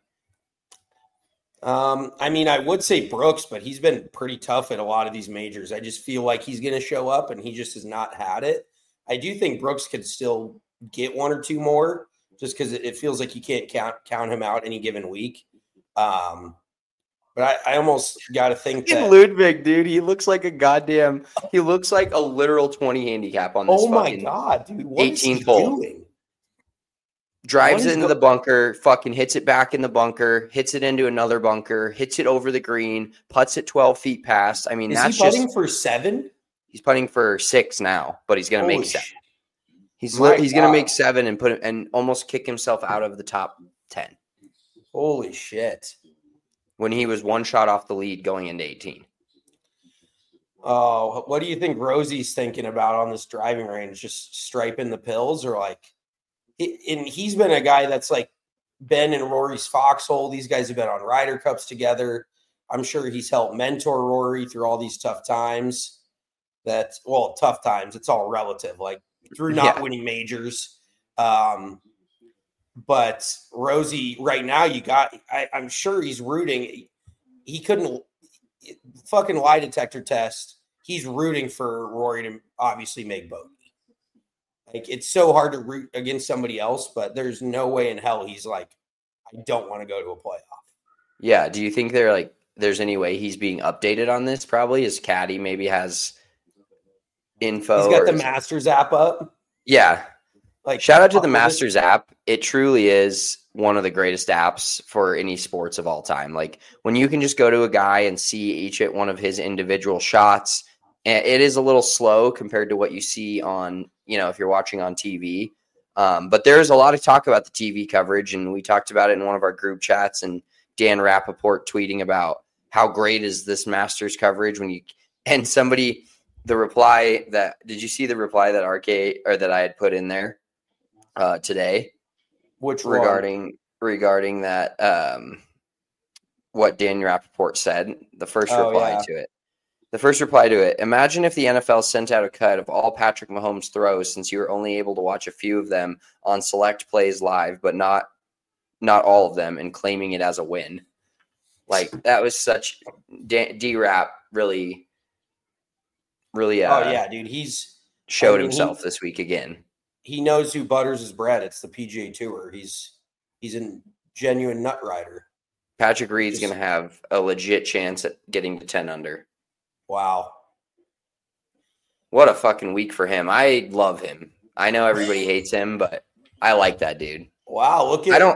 I mean, I would say Brooks, but he's been pretty tough at a lot of these majors. I just feel like he's going to show up and he just has not had it. I do think Brooks could still get 1 or 2 more just because it feels like you can't count him out any given week. But I almost got to think that Ludwig, dude, he looks like he looks like a literal 20 handicap on this. Oh my God, dude. What is he doing? Drives it into the bunker, fucking hits it back in the bunker, hits it into another bunker, hits it over the green, putts it 12 feet past. I mean, is he putting for 7? He's putting for 6 now, but he's going to make 7. He's going to make 7 and almost kick himself out of the top 10. Holy shit. When he was 1 shot off the lead going into 18. Oh, what do you think Rosie's thinking about on this driving range? Just striping the pills, or like, and he's been a guy that's like been in Rory's foxhole. These guys have been on Ryder Cups together. I'm sure he's helped mentor Rory through all these tough times. Tough times. It's all relative, like through not winning majors. But Rosie, right now, I'm sure he's rooting. He couldn't fucking lie detector test. He's rooting for Rory to obviously make bogey. Like, it's so hard to root against somebody else, but there's no way in hell he's like, I don't want to go to a playoff. Yeah. Do you think there's any way he's being updated on this? Probably his caddy maybe has info. He's got the Masters app up. Yeah. Like, shout out to the Masters app. It truly is one of the greatest apps for any sports of all time. Like, when you can just go to a guy and see each at one of his individual shots, and it is a little slow compared to what you see on, if you're watching on TV. But there's a lot of talk about the TV coverage, and we talked about it in one of our group chats, and Dan Rappaport tweeting about how great is this Masters coverage did you see the reply that I had put in there today? Which regarding that, what Dan Rappaport said, the first reply to it. The first reply to it: imagine if the NFL sent out a cut of all Patrick Mahomes' throws, since you were only able to watch a few of them on select plays live, but not all of them, and claiming it as a win. Like, that was such D-Rap really. Oh yeah, dude, he's showed himself this week again. He knows who butters his bread. It's the PGA Tour. He's a genuine nut rider. Patrick Reed's going to have a legit chance at getting to 10 under. Wow. What a fucking week for him. I love him. I know everybody hates him, but I like that dude. Wow, look at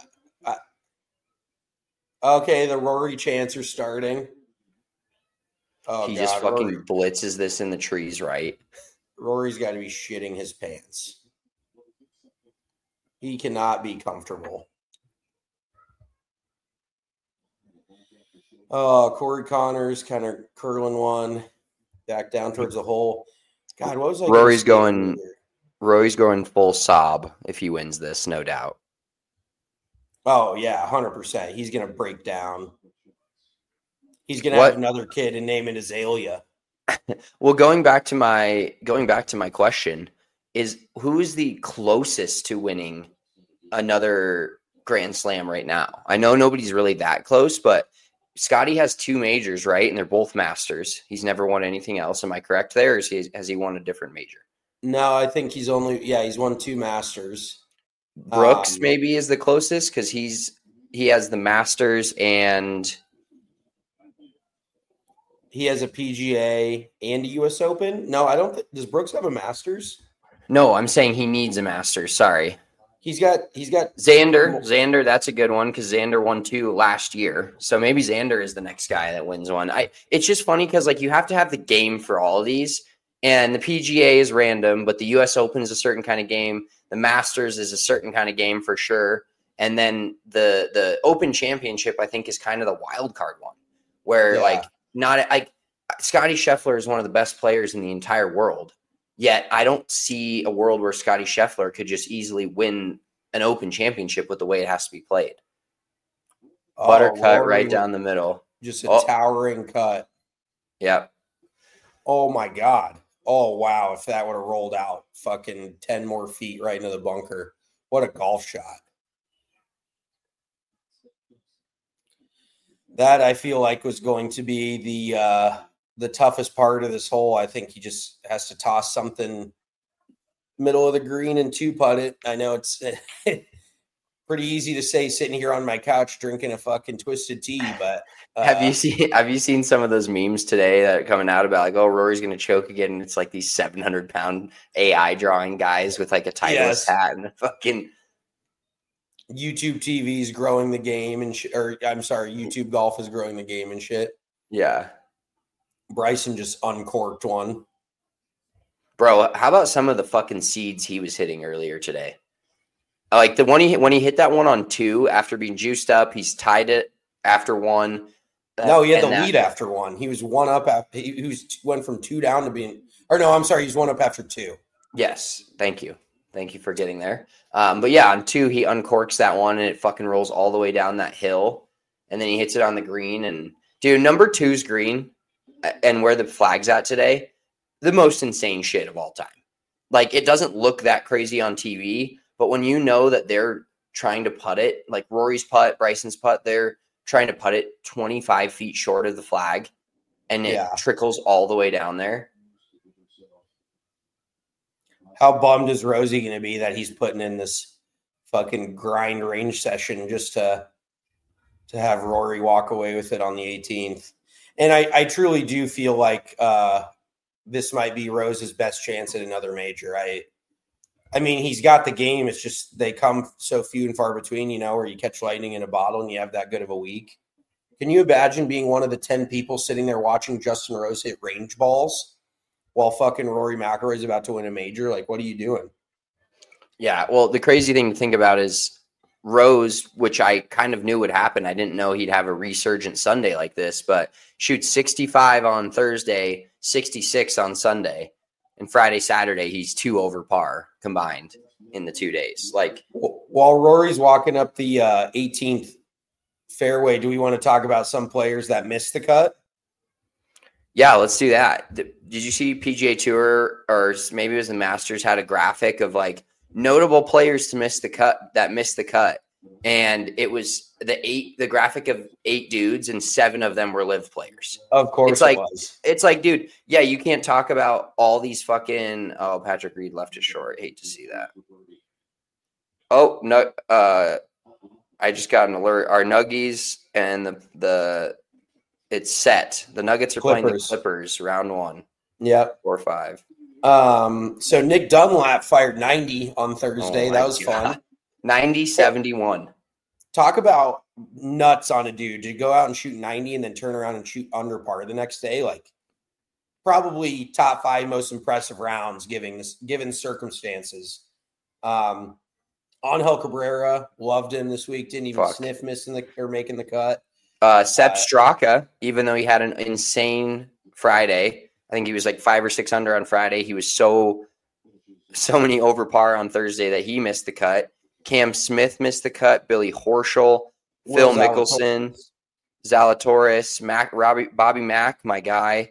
okay, the Rory chants are starting. Oh, he just fucking blitzes this in the trees, right? Rory's got to be shitting his pants. He cannot be comfortable. Oh, Corey Connors kind of curling one back down towards the hole. God, what was I? Rory's going full sob if he wins this, no doubt. Oh yeah, 100%. He's gonna break down. He's gonna have another kid and name it Azalea. Well, going back to my question is, who is the closest to winning another Grand Slam right now? I know nobody's really that close, but Scotty has 2 majors, right? And they're both Masters. He's never won anything else. Am I correct there? Or has he won a different major? No, I think he's won 2 Masters. Brooks maybe is the closest because he has the Masters and he has a PGA and a U.S. Open. No, I don't think. Does Brooks have a Masters? No, I'm saying he needs a Masters. Sorry. He's got Xander. Xander, that's a good one because Xander won 2 last year. So maybe Xander is the next guy that wins one. It's just funny because like you have to have the game for all of these, and the PGA is random, but the U.S. Open is a certain kind of game. The Masters is a certain kind of game for sure, and then the Open Championship I think is kind of the wild card one, where Scotty Scheffler is one of the best players in the entire world. Yet I don't see a world where Scotty Scheffler could just easily win an Open Championship with the way it has to be played. Buttercut right down the middle. Just a towering cut. Yep. Oh, my God. Oh, wow. If that would have rolled out fucking 10 more feet right into the bunker. What a golf shot. That I feel like was going to be the toughest part of this hole. I think he just has to toss something middle of the green and 2-putt it. I know it's pretty easy to say sitting here on my couch drinking a fucking twisted tea, but Have you seen some of those memes today that are coming out about like, oh, Rory's going to choke again? And it's like these 700-pound AI drawing guys with like a Titleist hat and a fucking YouTube TV is growing the game and YouTube golf is growing the game and shit. Yeah. Bryson just uncorked one. Bro, how about some of the fucking seeds he was hitting earlier today? Like the one when he hit that one on 2 after being juiced up, he's tied it after 1. No, he had the lead after 1. He was 1 up. He went from 2 down to being, or no, I'm sorry, he's 1 up after 2. Yes, thank you for getting there. But yeah, on 2 he uncorks that one and it fucking rolls all the way down that hill, and then he hits it on the green. And dude, number 2's green and where the flag's at today, the most insane shit of all time. Like it doesn't look that crazy on TV, but when you know that they're trying to putt it, like Rory's putt, Bryson's putt, they're trying to putt it 25 feet short of the flag, and it trickles all the way down there. How bummed is Rosie going to be that he's putting in this fucking grind range session just to have Rory walk away with it on the 18th? And I truly do feel like this might be Rose's best chance at another major. I mean, he's got the game. It's just they come so few and far between, where you catch lightning in a bottle and you have that good of a week. Can you imagine being one of the 10 people sitting there watching Justin Rose hit range balls while fucking Rory McIlroy is about to win a major? Like, what are you doing? Yeah, well, the crazy thing to think about is Rose, which I kind of knew would happen. I didn't know he'd have a resurgent Sunday like this, but shoots 65 on Thursday, 66 on Sunday. And Friday, Saturday, he's 2 over par combined in the 2 days. Like, while Rory's walking up the 18th fairway, do we want to talk about some players that missed the cut? Yeah, let's do that. Did you see PGA Tour, or maybe it was the Masters, had a graphic of like notable players to miss the cut that missed the cut, and it was the graphic of 8 dudes, and 7 of them were live players. Of course, it's like, dude, yeah, you can't talk about all these fucking. Oh, Patrick Reed left it short. I hate to see that. Oh no, I just got an alert. Our Nuggies and the it's set. The Nuggets are playing the Clippers round 1. Yep, 4-5. So Nick Dunlap fired 90 on Thursday. That was fun. 90-71. Talk about nuts on a dude to go out and shoot 90 and then turn around and shoot under par the next day. Like, probably top 5 most impressive rounds given circumstances. Angel Cabrera, loved him this week. Didn't even sniff making the cut. Sepp Straka, even though he had an insane Friday, I think he was like 5 or 6 under on Friday. He was so many over par on Thursday that he missed the cut. Cam Smith missed the cut. Billy Horschel, Phil Mickelson, Zalatoris, Bobby Mack, my guy.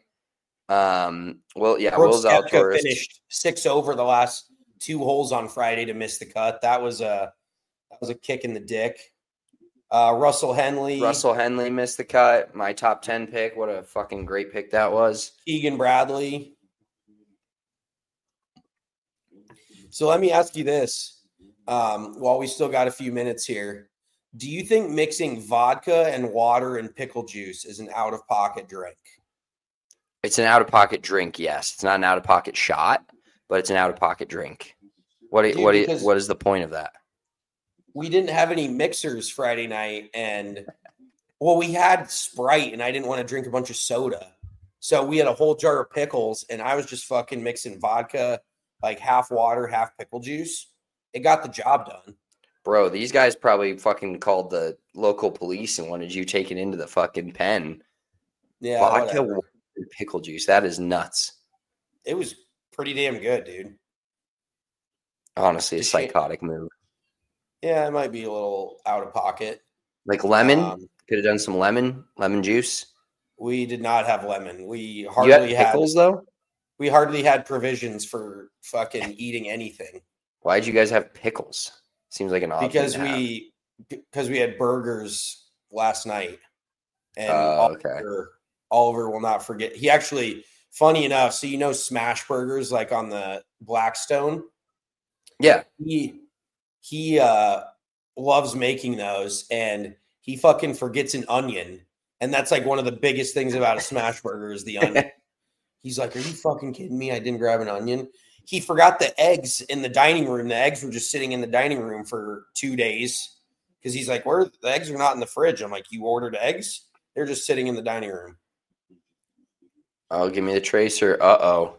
Will Zalatoris finished 6 over the last 2 holes on Friday to miss the cut. That was a kick in the dick. Russell Henley missed the cut. My top 10 pick. What a fucking great pick that was. Keegan Bradley. So let me ask you this. While we still got a few minutes here, do you think mixing vodka and water and pickle juice is an out-of-pocket drink? It's an out-of-pocket drink, yes. It's not an out-of-pocket shot, but it's an out-of-pocket drink. What is the point of that? We didn't have any mixers Friday night, and we had Sprite, and I didn't want to drink a bunch of soda. So we had a whole jar of pickles, and I was just fucking mixing vodka, like half water, half pickle juice. It got the job done. Bro, these guys probably fucking called the local police and wanted you taken into the fucking pen. Yeah. Vodka and pickle juice. That is nuts. It was pretty damn good, dude. Honestly, a psychotic move. Yeah, it might be a little out of pocket. Like lemon? Could have done some lemon juice. We did not have lemon. We hardly had pickles, though? We hardly had provisions for fucking eating anything. Why'd you guys have pickles? Seems like an odd thing because we had burgers last night. And Oliver will not forget. He actually, funny enough, so Smash Burgers like on the Blackstone? Yeah. He loves making those, and he fucking forgets an onion. And that's like one of the biggest things about a smash burger is the onion. He's like, are you fucking kidding me? I didn't grab an onion. He forgot the eggs in the dining room. The eggs were just sitting in the dining room for 2 days because he's like, the eggs are not in the fridge. I'm like, you ordered eggs? They're just sitting in the dining room. Oh, give me the tracer. Uh-oh.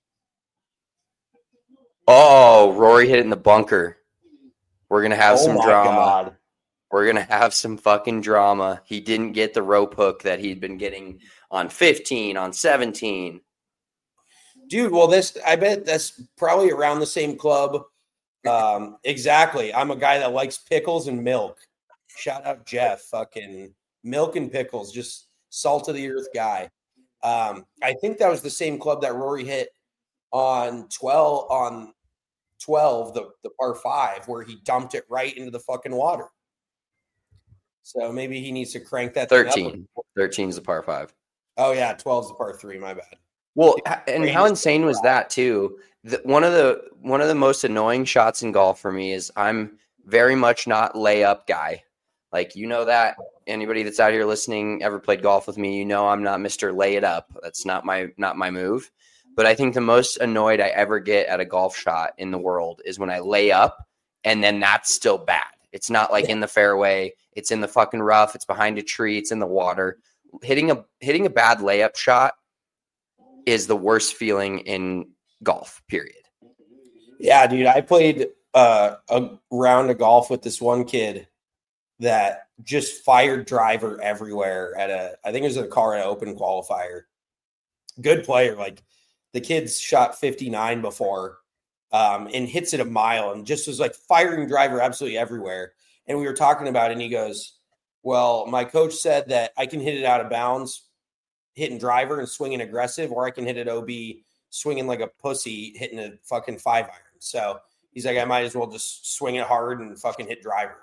Oh, Rory hit it in the bunker. We're going to have some drama. God. We're going to have some fucking drama. He didn't get the rope hook that he'd been getting on 15, on 17. Dude, well, I bet that's probably around the same club. Exactly. I'm a guy that likes pickles and milk. Shout out Jeff. Fucking milk and pickles. Just salt of the earth guy. I think that was the same club that Rory hit on 12, the par 5, where he dumped it right into the fucking water. So maybe he needs to crank that 13. 13 is the par 5. Oh, yeah. 12 is the par 3. My bad. Well, and how insane was that, too? One of the most annoying shots in golf for me is I'm very much not layup guy. Like, you know that. Anybody that's out here listening ever played golf with me, you know I'm not Mr. Lay It Up. That's not my move. But I think the most annoyed I ever get at a golf shot in the world is when I lay up and then that's still bad. It's not like in the fairway. It's in the fucking rough. It's behind a tree. It's in the water. Hitting a bad layup shot is the worst feeling in golf, period. Yeah, dude. I played a round of golf with this one kid that just fired driver everywhere I think it was at a Colorado Open qualifier. Good player. Like, the kid's shot 59 before and hits it a mile and just was like firing driver absolutely everywhere. And we were talking about it and he goes, well, my coach said that I can hit it out of bounds, hitting driver and swinging aggressive, or I can hit it OB swinging like a pussy, hitting a fucking 5-iron. So he's like, I might as well just swing it hard and fucking hit driver.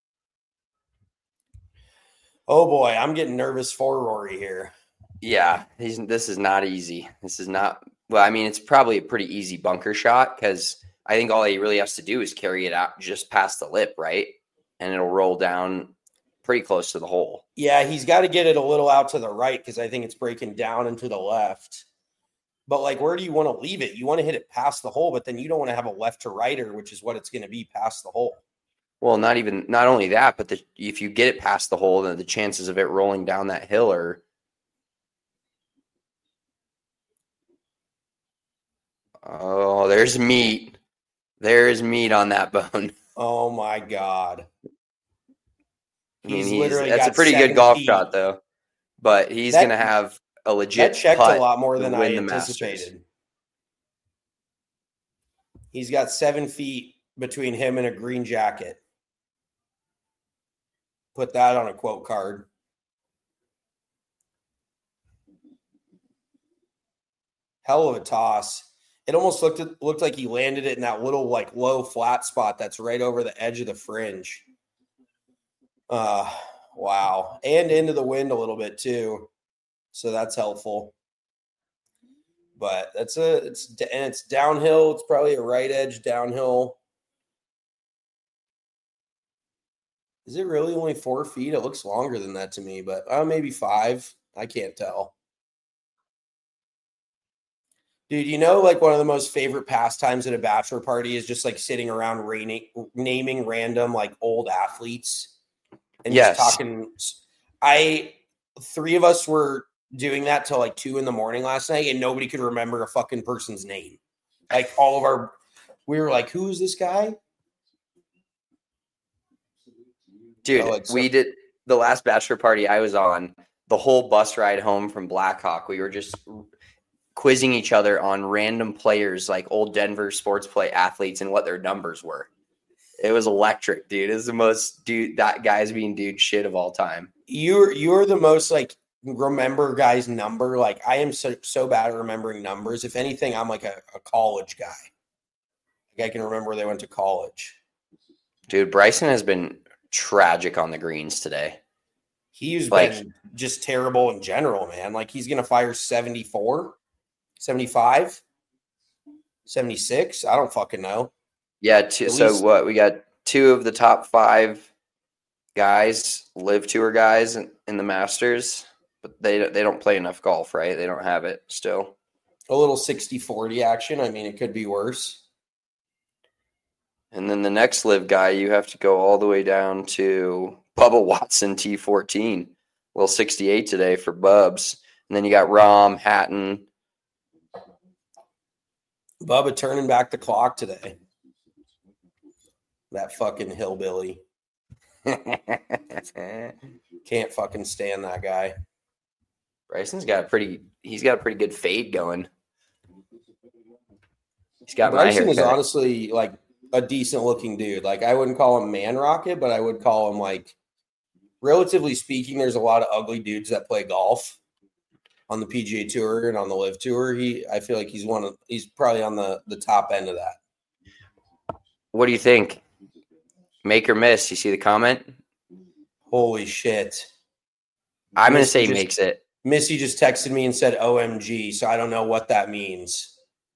Oh boy, I'm getting nervous for Rory here. Yeah, this is not easy. This is not, well, I mean, it's probably a pretty easy bunker shot because I think all he really has to do is carry it out just past the lip, right? And it'll roll down pretty close to the hole. Yeah, he's got to get it a little out to the right because I think it's breaking down into the left. But, like, where do you want to leave it? You want to hit it past the hole, but then you don't want to have a left to righter, which is what it's going to be past the hole. Well, not only that, but if you get it past the hole, then the chances of it rolling down that hill are. Oh, there's meat. There's meat on that bone. Oh my God. I mean, that's a pretty good golf shot, though. But he's going to have a legit that checked putt a lot more than I the anticipated. Masters. He's got 7 feet between him and a green jacket. Put that on a quote card. Hell of a toss. It almost looked like he landed it in that little, like, low flat spot that's right over the edge of the fringe. Wow. And into the wind a little bit too. So that's helpful. But it's downhill. It's probably a right edge downhill. Is it really only 4 feet? It looks longer than that to me, but maybe 5. I can't tell. Dude, you know, like, one of the most favorite pastimes at a bachelor party is just like sitting around naming random, like, old athletes and just talking. 3 of us were doing that till like 2 a.m. last night, and nobody could remember a fucking person's name. Like, we were like, who is this guy? Dude, we did the last bachelor party I was on, the whole bus ride home from Blackhawk. We were just quizzing each other on random players, like old Denver sports play athletes, and what their numbers were. It was electric, dude. It was the most that guy's being dude shit of all time. You're the most, like, remember guys' number. Like, I am so bad at remembering numbers. If anything, I'm like a college guy. Like, I can remember where they went to college. Dude, Bryson has been tragic on the greens today. He's been just terrible in general, man. Like, he's going to fire 74, 75, 76. I don't fucking know. Yeah. So what? We got 2 of the top 5 guys, live tour guys in the Masters, but they don't play enough golf, right? They don't have it still. A little 60-40 action. I mean, it could be worse. And then the next live guy, you have to go all the way down to Bubba Watson T14. Little 68 today for Bubs. And then you got Rahm, Hatton. Bubba turning back the clock today. That fucking hillbilly. Can't fucking stand that guy. Bryson's got a pretty good fade going. He's got Bryson my is haircut. honestly like a decent looking dude. Like I wouldn't call him man rocket, but I would call him like, relatively speaking, there's a lot of ugly dudes that play golf on the PGA Tour and on the Live Tour. I feel like he's probably on the top end of that. What do you think? Make or miss? You see the comment? Holy shit. I'm going to say he makes it. Missy just texted me and said OMG, so I don't know what that means.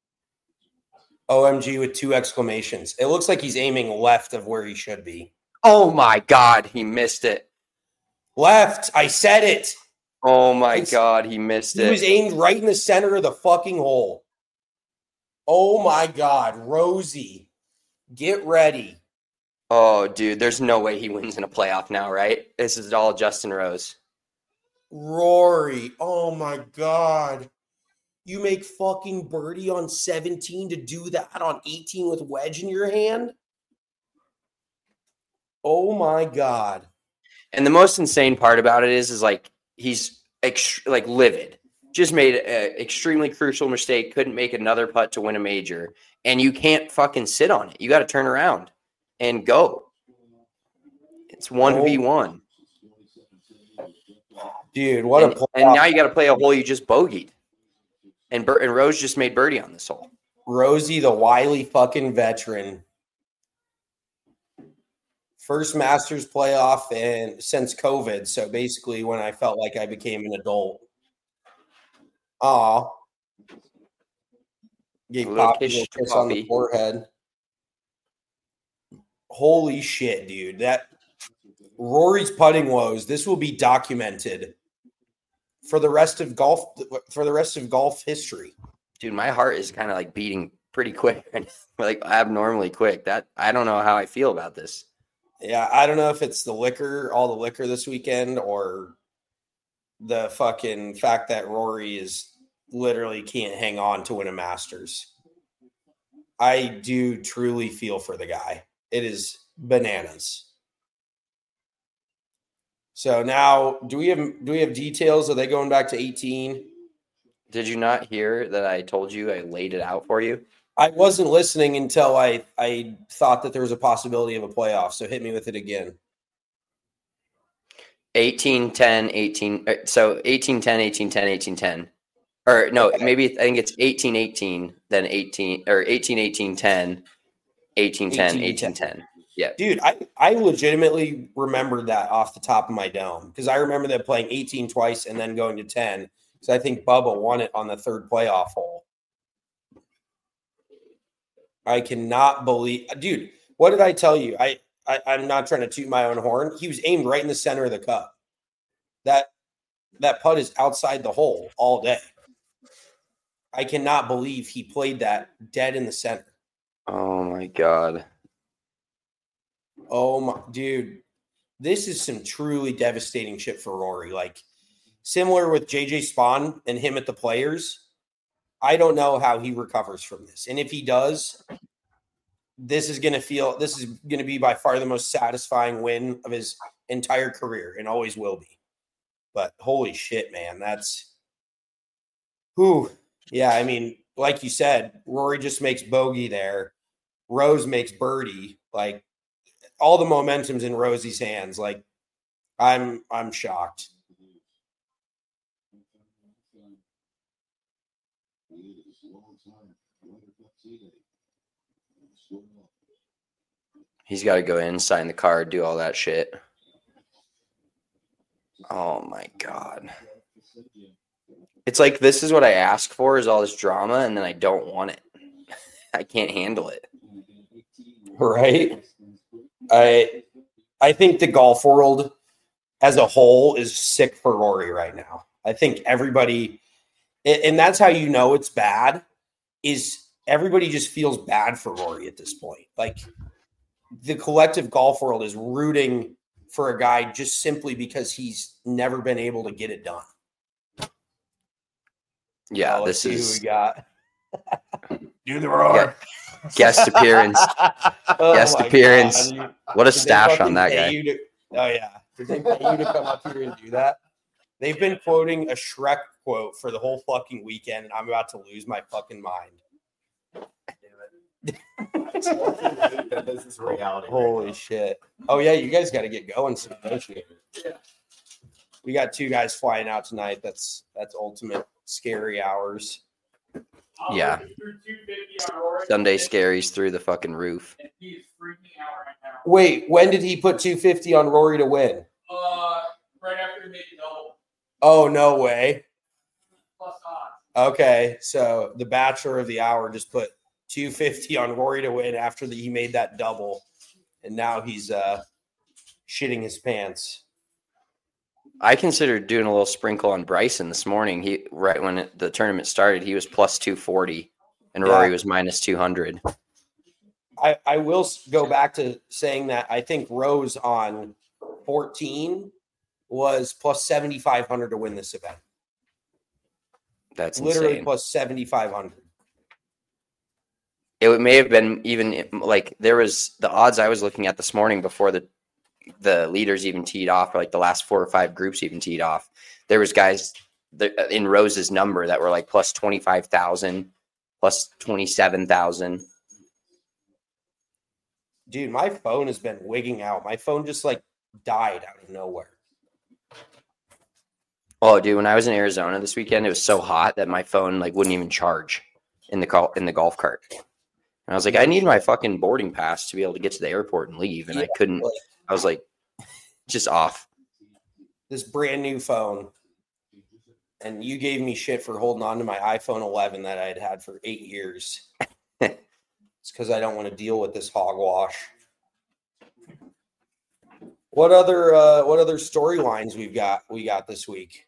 OMG with 2 exclamations. It looks like he's aiming left of where he should be. Oh my God, he missed it. Left. I said it. Oh my God, he missed it. He was aimed right in the center of the fucking hole. Oh my God, Rosie, get ready. Oh, dude, there's no way he wins in a playoff now, right? This is all Justin Rose. Rory, oh my God. You make fucking birdie on 17 to do that on 18 with wedge in your hand? Oh my God. And the most insane part about it is like he's like livid. Just made an extremely crucial mistake, couldn't make another putt to win a major, and you can't fucking sit on it. You got to turn around and go. It's 1v1. Dude, what a playoff. And now you got to play a hole you just bogeyed. And Rose just made birdie on this hole. Rosie, the wily fucking veteran. First Masters playoff and since COVID. So basically when I felt like I became an adult. Aw. Gave Poppy a kiss on the forehead. Holy shit, dude. That Rory's putting woes. This will be documented for the rest of golf history. Dude, my heart is kind of like beating pretty quick, like abnormally quick. That I don't know how I feel about this. Yeah, I don't know if it's the liquor, all the liquor this weekend, or the fucking fact that Rory is literally can't hang on to win a Masters. I do truly feel for the guy. It is bananas. So now, do we have details? Are they going back to 18? Did you not hear that I told you I laid it out for you? I wasn't listening until I thought that there was a possibility of a playoff. So hit me with it again. 18, 10, 18. So 18, 10, 18, 10, 18, 10. Or no, okay. Maybe I think it's 18, 18, then 18, or 18, 18, 10, 18, 10, 18, 10. Yeah. Dude, I legitimately remembered that off the top of my dome because I remember them playing 18 twice and then going to 10 because I think Bubba won it on the third playoff hole. I cannot believe, dude, what did I tell you? I'm not trying to toot my own horn. He was aimed right in the center of the cup. That putt is outside the hole all day. I cannot believe he played that dead in the center. Oh my God. Oh my, dude, this is some truly devastating shit for Rory. Like similar with JJ Spawn and him at the Players. I don't know how he recovers from this. And if he does, this is going to be by far the most satisfying win of his entire career and always will be. But holy shit, man, that's whew. Yeah, I mean, like you said, Rory just makes bogey there. Rose makes birdie. Like all the momentum's in Rosie's hands. Like I'm shocked. He's got to go in, sign the card, do all that shit. Oh my God. It's like, this is what I ask for is all this drama, and then I don't want it. I can't handle it. Right? I I think the golf world as a whole is sick for Rory right now. I think everybody, and that's how you know it's bad, is everybody just feels bad for Rory at this point. Like the collective golf world is rooting for a guy just simply because he's never been able to get it done. Yeah, let's see is who we got. Do the roar. Guest appearance. Guest appearance. God. What a stash on that guy. Oh yeah. Did they pay you to come up here and do that? They've been quoting a Shrek quote for the whole fucking weekend, and I'm about to lose my fucking mind. This is reality. Holy shit. Oh yeah, you guys got to get going soon, don't you? Yeah. We got 2 guys flying out tonight. That's ultimate scary hours. Yeah. Sunday scaries through the fucking roof. Wait, when did he put 250 on Rory to win? Right after he made the double. Oh, no way. Plus odds. Okay, so the Bachelor of the Hour just put 250 on Rory to win after he made that double, and now he's shitting his pants. I considered doing a little sprinkle on Bryson this morning. He right when the tournament started, he was plus 240, and Rory was minus 200. I will go back to saying that I think Rose on 14 was plus 7,500 to win this event. That's literally insane. plus 7,500. It may have been even like there was the odds I was looking at this morning before the leaders even teed off, or like the last 4 or 5 groups even teed off. There was guys in Rose's number that were like plus 25,000, plus 27,000. Dude, my phone has been wigging out. My phone just like died out of nowhere. Oh, dude, when I was in Arizona this weekend, it was so hot that my phone like wouldn't even charge in the golf cart. And I was like, I need my fucking boarding pass to be able to get to the airport and leave, and I couldn't. I was like, just off. This brand new phone, and you gave me shit for holding on to my iPhone 11 that I had for 8 years. It's because I don't want to deal with this hogwash. What other storylines we got this week?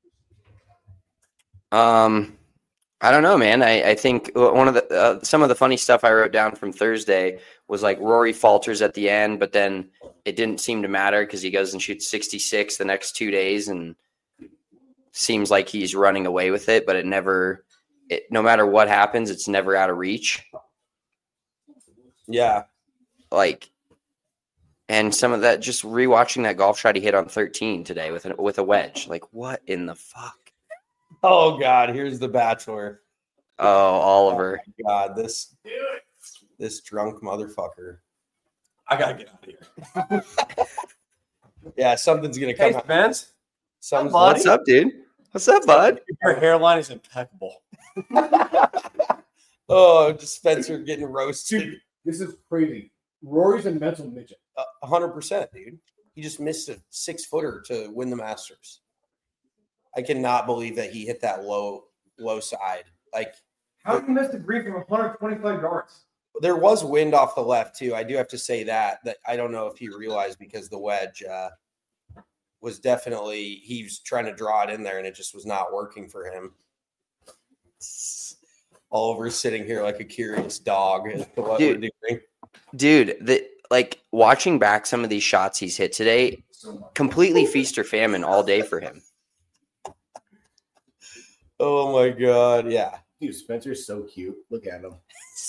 I don't know, man. I think one of the some of the funny stuff I wrote down from Thursday was like Rory falters at the end, but then it didn't seem to matter because he goes and shoots 66 the next 2 days, and seems like he's running away with it. But no matter what happens, it's never out of reach. Yeah, and some of that, just rewatching that golf shot he hit on 13 today with a wedge. Like, what in the fuck? Oh God, here's the Bachelor. Oh, Oliver. Oh God, this drunk motherfucker. I gotta get out of here. Yeah, something's gonna come. Hey, Spence. What's up, dude? What's up, bud? Your hairline is impeccable. Oh, Spencer getting roasted. Dude, this is crazy. Rory's a mental midget. 100%, dude. He just missed a 6-footer to win the Masters. I cannot believe that he hit that low side. Like, how did he miss the green from 125 yards? There was wind off the left too. I do have to say that I don't know if he realized, because the wedge was definitely, he was trying to draw it in there and it just was not working for him. Oliver sitting here like a curious dog as to what we're doing. Dude, watching back some of these shots he's hit today, completely feast or famine all day for him. Oh my God, yeah. Dude, Spencer's so cute. Look at him.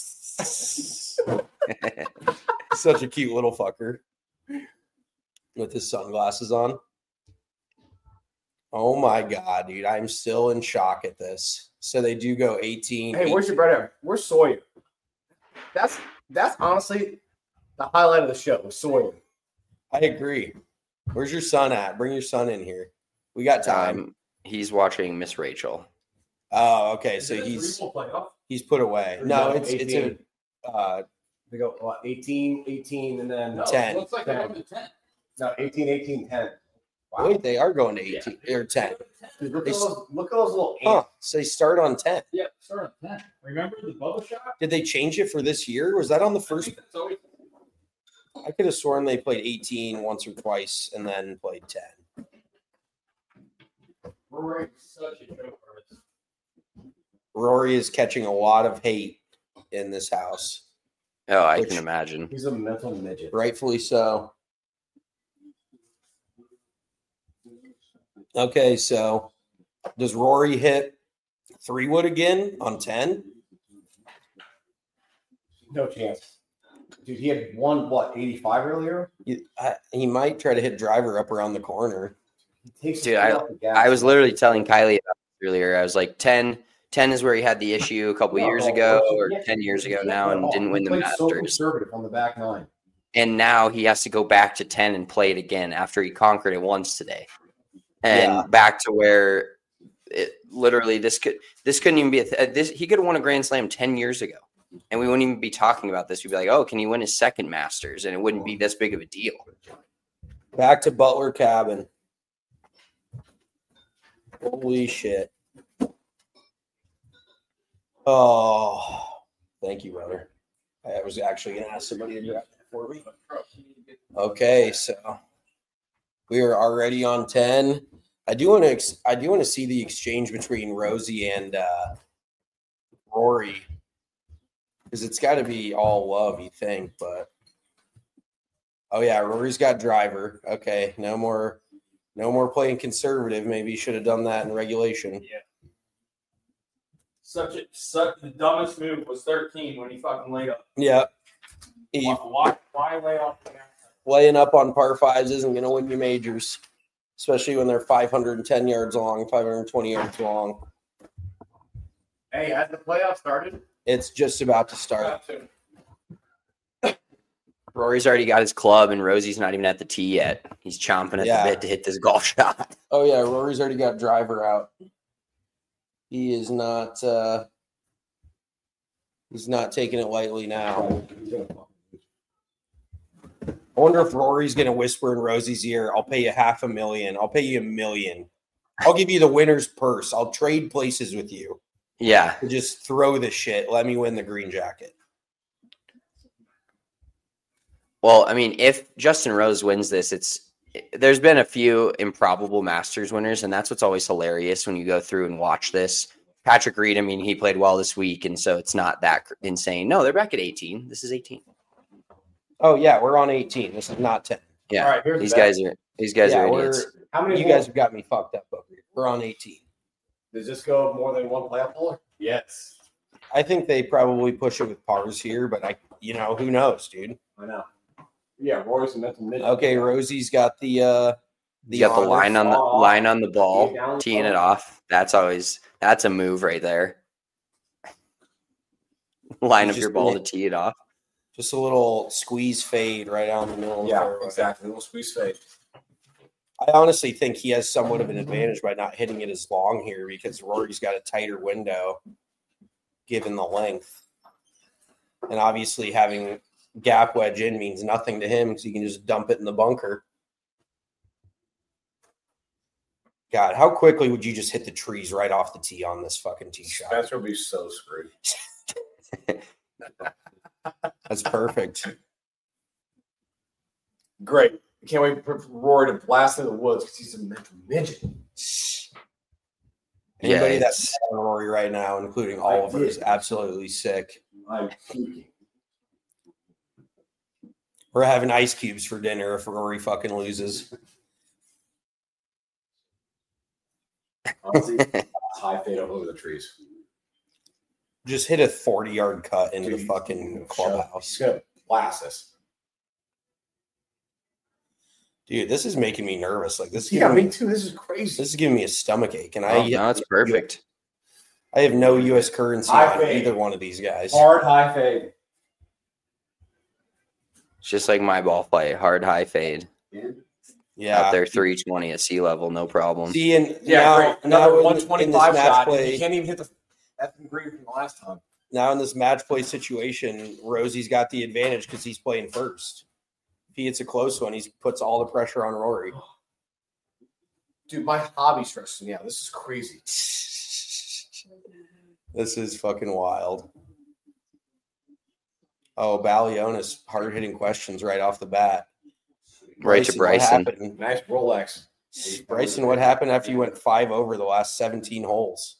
Such a cute little fucker with his sunglasses on. Oh my God, dude. I'm still in shock at this. So they do go 18. Hey, where's your brother? Where's Sawyer? That's honestly the highlight of the show, Sawyer. I agree. Where's your son at? Bring your son in here. We got time. He's watching Miss Rachel. Oh, okay. So he's put away. No, it's they go what, 18, and then 10. Looks like they're going to 10. No, 18, 10. Wow. Wait, they are going to 18 or 10. Dude, look at those little 8. Huh, so they start on 10. Yeah, start on 10. Remember the bubble shot? Did they change it for this year? Was that on the first? I could have sworn they played 18 once or twice and then played 10. Rory's such a joke. Rory is catching a lot of hate in this house. Oh, I can imagine. He's a mental midget. Rightfully so. Okay, so does Rory hit 3-wood again on 10? No chance. Dude, he had 85 earlier? He might try to hit driver up around the corner. Dude, I was literally telling Kylie about this earlier. I was like, 10 is where he had the issue a couple years ago or 10 years ago now and didn't win the Masters. So conservative on the back nine. And now he has to go back to 10 and play it again after he conquered it once today. And back to where it literally this couldn't even be he could have won a Grand Slam 10 years ago. And we wouldn't even be talking about this. We'd be like, oh, can he win his second Masters? And it wouldn't be this big of a deal. Back to Butler Cabin. Holy shit. Oh, thank you, brother. I was actually going to ask somebody to do that for me. Okay, so we are already on 10. I do want to see the exchange between Rosie and Rory, because it's got to be all love, you think, but oh yeah, Rory's got driver. Okay, no more playing conservative. Maybe you should have done that in regulation. Yeah. Such the dumbest move was 13 when he fucking laid up. Yeah. Why lay off? Laying up on par fives isn't going to win you majors, especially when they're 510 yards long, 520 yards long. Hey, has the playoff started? It's just about to start. Rory's already got his club, and Rosie's not even at the tee yet. He's chomping at the bit to hit this golf shot. Oh, yeah, Rory's already got driver out. He is not he's not taking it lightly now. I wonder if Rory's going to whisper in Rosie's ear, I'll pay you $500,000. I'll pay you $1 million. I'll give you the winner's purse. I'll trade places with you. Yeah. Just throw the shit. Let me win the green jacket. Well, I mean, if Justin Rose wins this, there's been a few improbable Masters winners, and that's what's always hilarious when you go through and watch this. Patrick Reed, I mean, he played well this week, and so it's not that insane. No, they're back at 18. This is 18. Oh yeah, we're on 18. This is not 10. Yeah, all right, these guys are idiots. How many? You guys have got me fucked up over here. We're on 18. Does this go more than one playoff hole? Yes. I think they probably push it with pars here, but who knows, dude? I know. Yeah, Rory's a mental midget. Okay, Rosie's got the line on the ball, teeing it off. That's a move right there. Line up your ball to tee it off. Just a little squeeze fade right down the middle. Yeah, exactly. A little squeeze fade. I honestly think he has somewhat of an advantage by not hitting it as long here because Rory's got a tighter window given the length. And obviously having gap wedge in means nothing to him because he can just dump it in the bunker. God, how quickly would you just hit the trees right off the tee on this fucking tee shot? Spencer would be so screwed. That's perfect. Great. Can't wait for Rory to blast in the woods because he's a mental midget. Anybody that's on Rory right now, including Oliver, is absolutely sick. I'm puking. We're having ice cubes for dinner if Rory fucking loses. Honestly, high fade over the trees. Just hit a 40-yard cut into the fucking clubhouse. He's going to blast us. Dude, this is making me nervous. Like this. Yeah, me too. This is crazy. This is giving me a stomach ache, and no, it's perfect. I have no U.S. currency on either one of these guys. Hard high fade. It's just like my ball play, hard high fade. Yeah, out there 320 at sea level, no problem. See, and now another 125 shot. You can't even hit the effing green from the last time. Now in this match play situation, Rosie's got the advantage because he's playing first. If he hits a close one, he puts all the pressure on Rory. Dude, my hobby stresses me out. This is crazy. This is fucking wild. Oh, Balionis hard-hitting questions right off the bat. Right to Bryson. What happened? Nice Rolex. Bryson, what happened after you went 5 over the last 17 holes?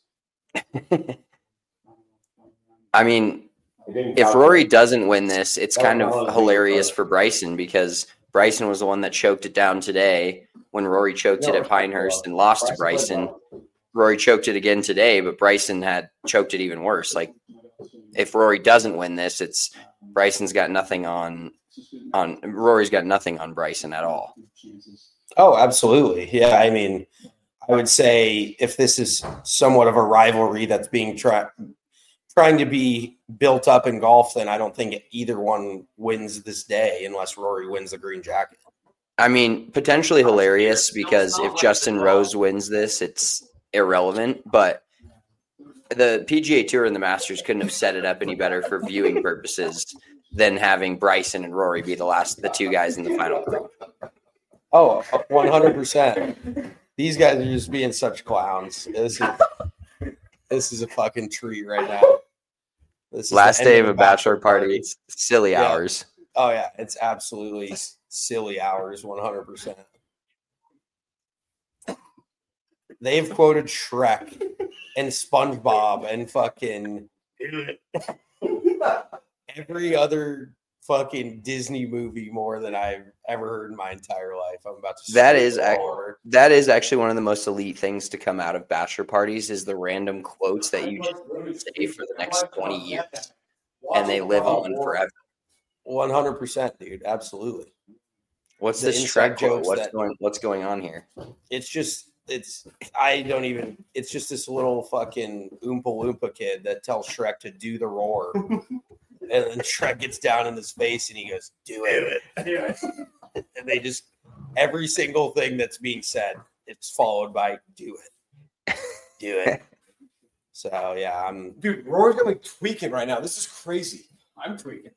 I mean, if Rory doesn't win this, it's kind of hilarious for Bryson because Bryson was the one that choked it down today when Rory choked it at Pinehurst and lost to Bryson. Rory choked it again today, but Bryson had choked it even worse. Like, if Rory doesn't win this, it's Bryson's got nothing on Rory's got nothing on Bryson at all. Oh, absolutely. Yeah, I mean, I would say if this is somewhat of a rivalry that's being trying to be built up in golf, then I don't think either one wins this day unless Rory wins the green jacket. I mean, potentially hilarious because if Justin Rose wins this, it's irrelevant, but the PGA Tour and the Masters couldn't have set it up any better for viewing purposes than having Bryson and Rory be the two guys in the final group. Oh, 100%. These guys are just being such clowns. This is a fucking treat right now. This is last day of a bachelor party. It's silly hours. Oh, yeah. It's absolutely silly hours, 100%. They've quoted Shrek and SpongeBob and fucking every other fucking Disney movie more than I've ever heard in my entire life. I'm about to. That is actually one of the most elite things to come out of bachelor parties is the random quotes that you just say for the next 20 years, and they live on forever. 100%, dude. Absolutely. What's this Shrek quote? What's going on here? It's just it's just this little fucking Oompa Loompa kid that tells Shrek to do the roar. And then Shrek gets down in his face and he goes, do it. And they just, every single thing that's being said, it's followed by do it. Do it. So, yeah, Dude, Rory's going to be tweaking right now. This is crazy. I'm tweaking.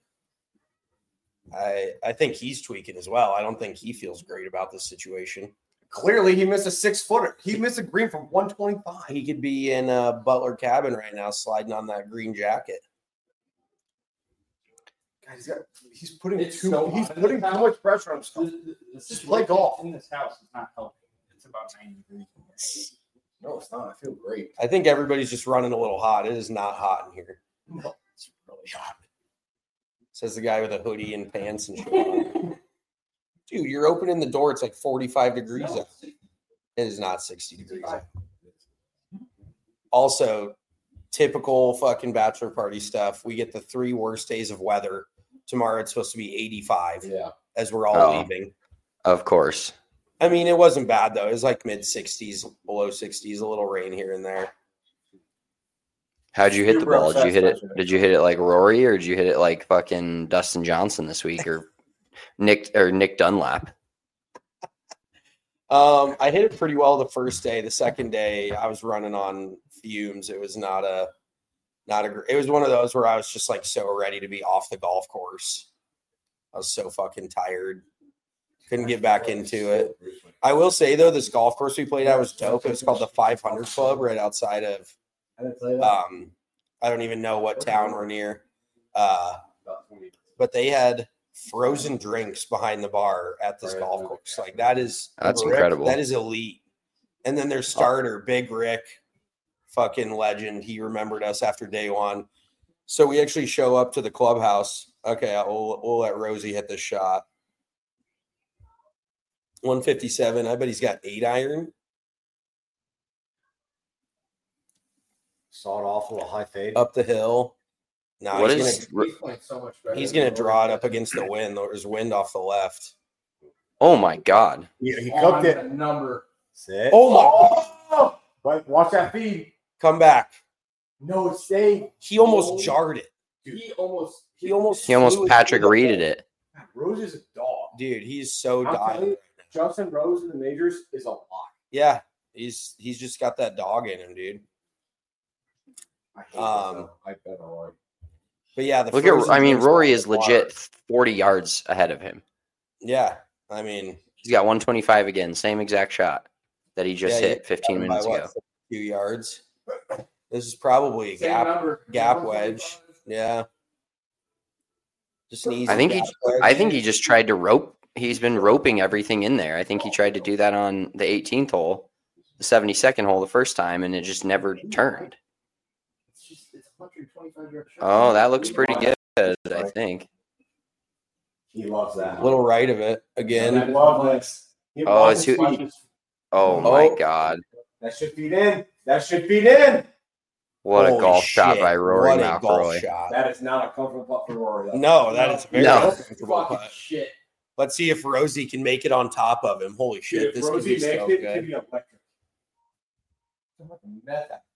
I think he's tweaking as well. I don't think he feels great about this situation. Clearly, he missed a 6-footer. He missed a green from 125. He could be in a Butler cabin right now sliding on that green jacket. God, he's putting too much pressure on himself. Just play golf. In this house is not helping. It's about 90 degrees. No, it's not. I feel great. I think everybody's just running a little hot. It is not hot in here. No, it's really hot. Says the guy with a hoodie and pants and shit on. Dude, you're opening the door. It's like 45 degrees out. It is not 60 degrees out. Also, typical fucking bachelor party stuff. We get the 3 worst days of weather. Tomorrow it's supposed to be 85 as we're all leaving. Of course. I mean, it wasn't bad, though. It was like mid-60s, below 60s, a little rain here and there. How'd you hit the ball? Did you hit it like Rory, or did you hit it like fucking Dustin Johnson this week, or Nick Dunlap? I hit it pretty well the first day. The second day, I was running on fumes. It was it was one of those where I was just like so ready to be off the golf course. I was so fucking tired. Couldn't get back into it. I will say though, this golf course we played at was dope. It was called the 500 Club right outside of I don't even know what town we're near. But they had frozen drinks behind the bar at this golf course. Like that's incredible. That is elite. And then their starter, Big Rick, fucking legend. He remembered us after day one. So we actually show up to the clubhouse. Okay, we'll let Rosie hit this shot. 157. I bet he's got 8 iron. Sawed off a little high fade. Up the hill. No, he's gonna draw it up against the wind. There's wind off the left. Oh my god. Yeah, he cooked it. Number. Sit. Oh my! But watch that feed. Come back. No, it stayed. He almost jarred it. Dude. He almost Patrick Reeded it. Rose is a dog. Dude, he's so dialed. Justin Rose in the majors is a lot. Yeah, he's just got that dog in him, dude. I bet Rory. But yeah, Rory is legit 40 yards ahead of him. Yeah, I mean, he's got 125 again, same exact shot that he just hit 15 minutes ago. 2 yards. This is probably a gap wedge. Yeah. Just an easy I think gap wedge. I think he just tried to rope. He's been roping everything in there. I think he tried to do that on the 18th hole, the 72nd hole the first time, and it just never turned. Oh, that looks pretty good, I think. He loves that. Little right of it again. I love this. Oh, it's oh my God. That should feed in. That should feed in. What a Holy golf shot shit. by Rory What a golf McIlroy. shot. That is not a comfortable putt for Rory. Though. No, that is a very No. uncomfortable putt. Shit. Let's see if Rosie can make it on top of him. Holy shit, Dude, this if could Rosie be makes so it, it could good. be electric. I'm like a meth actor.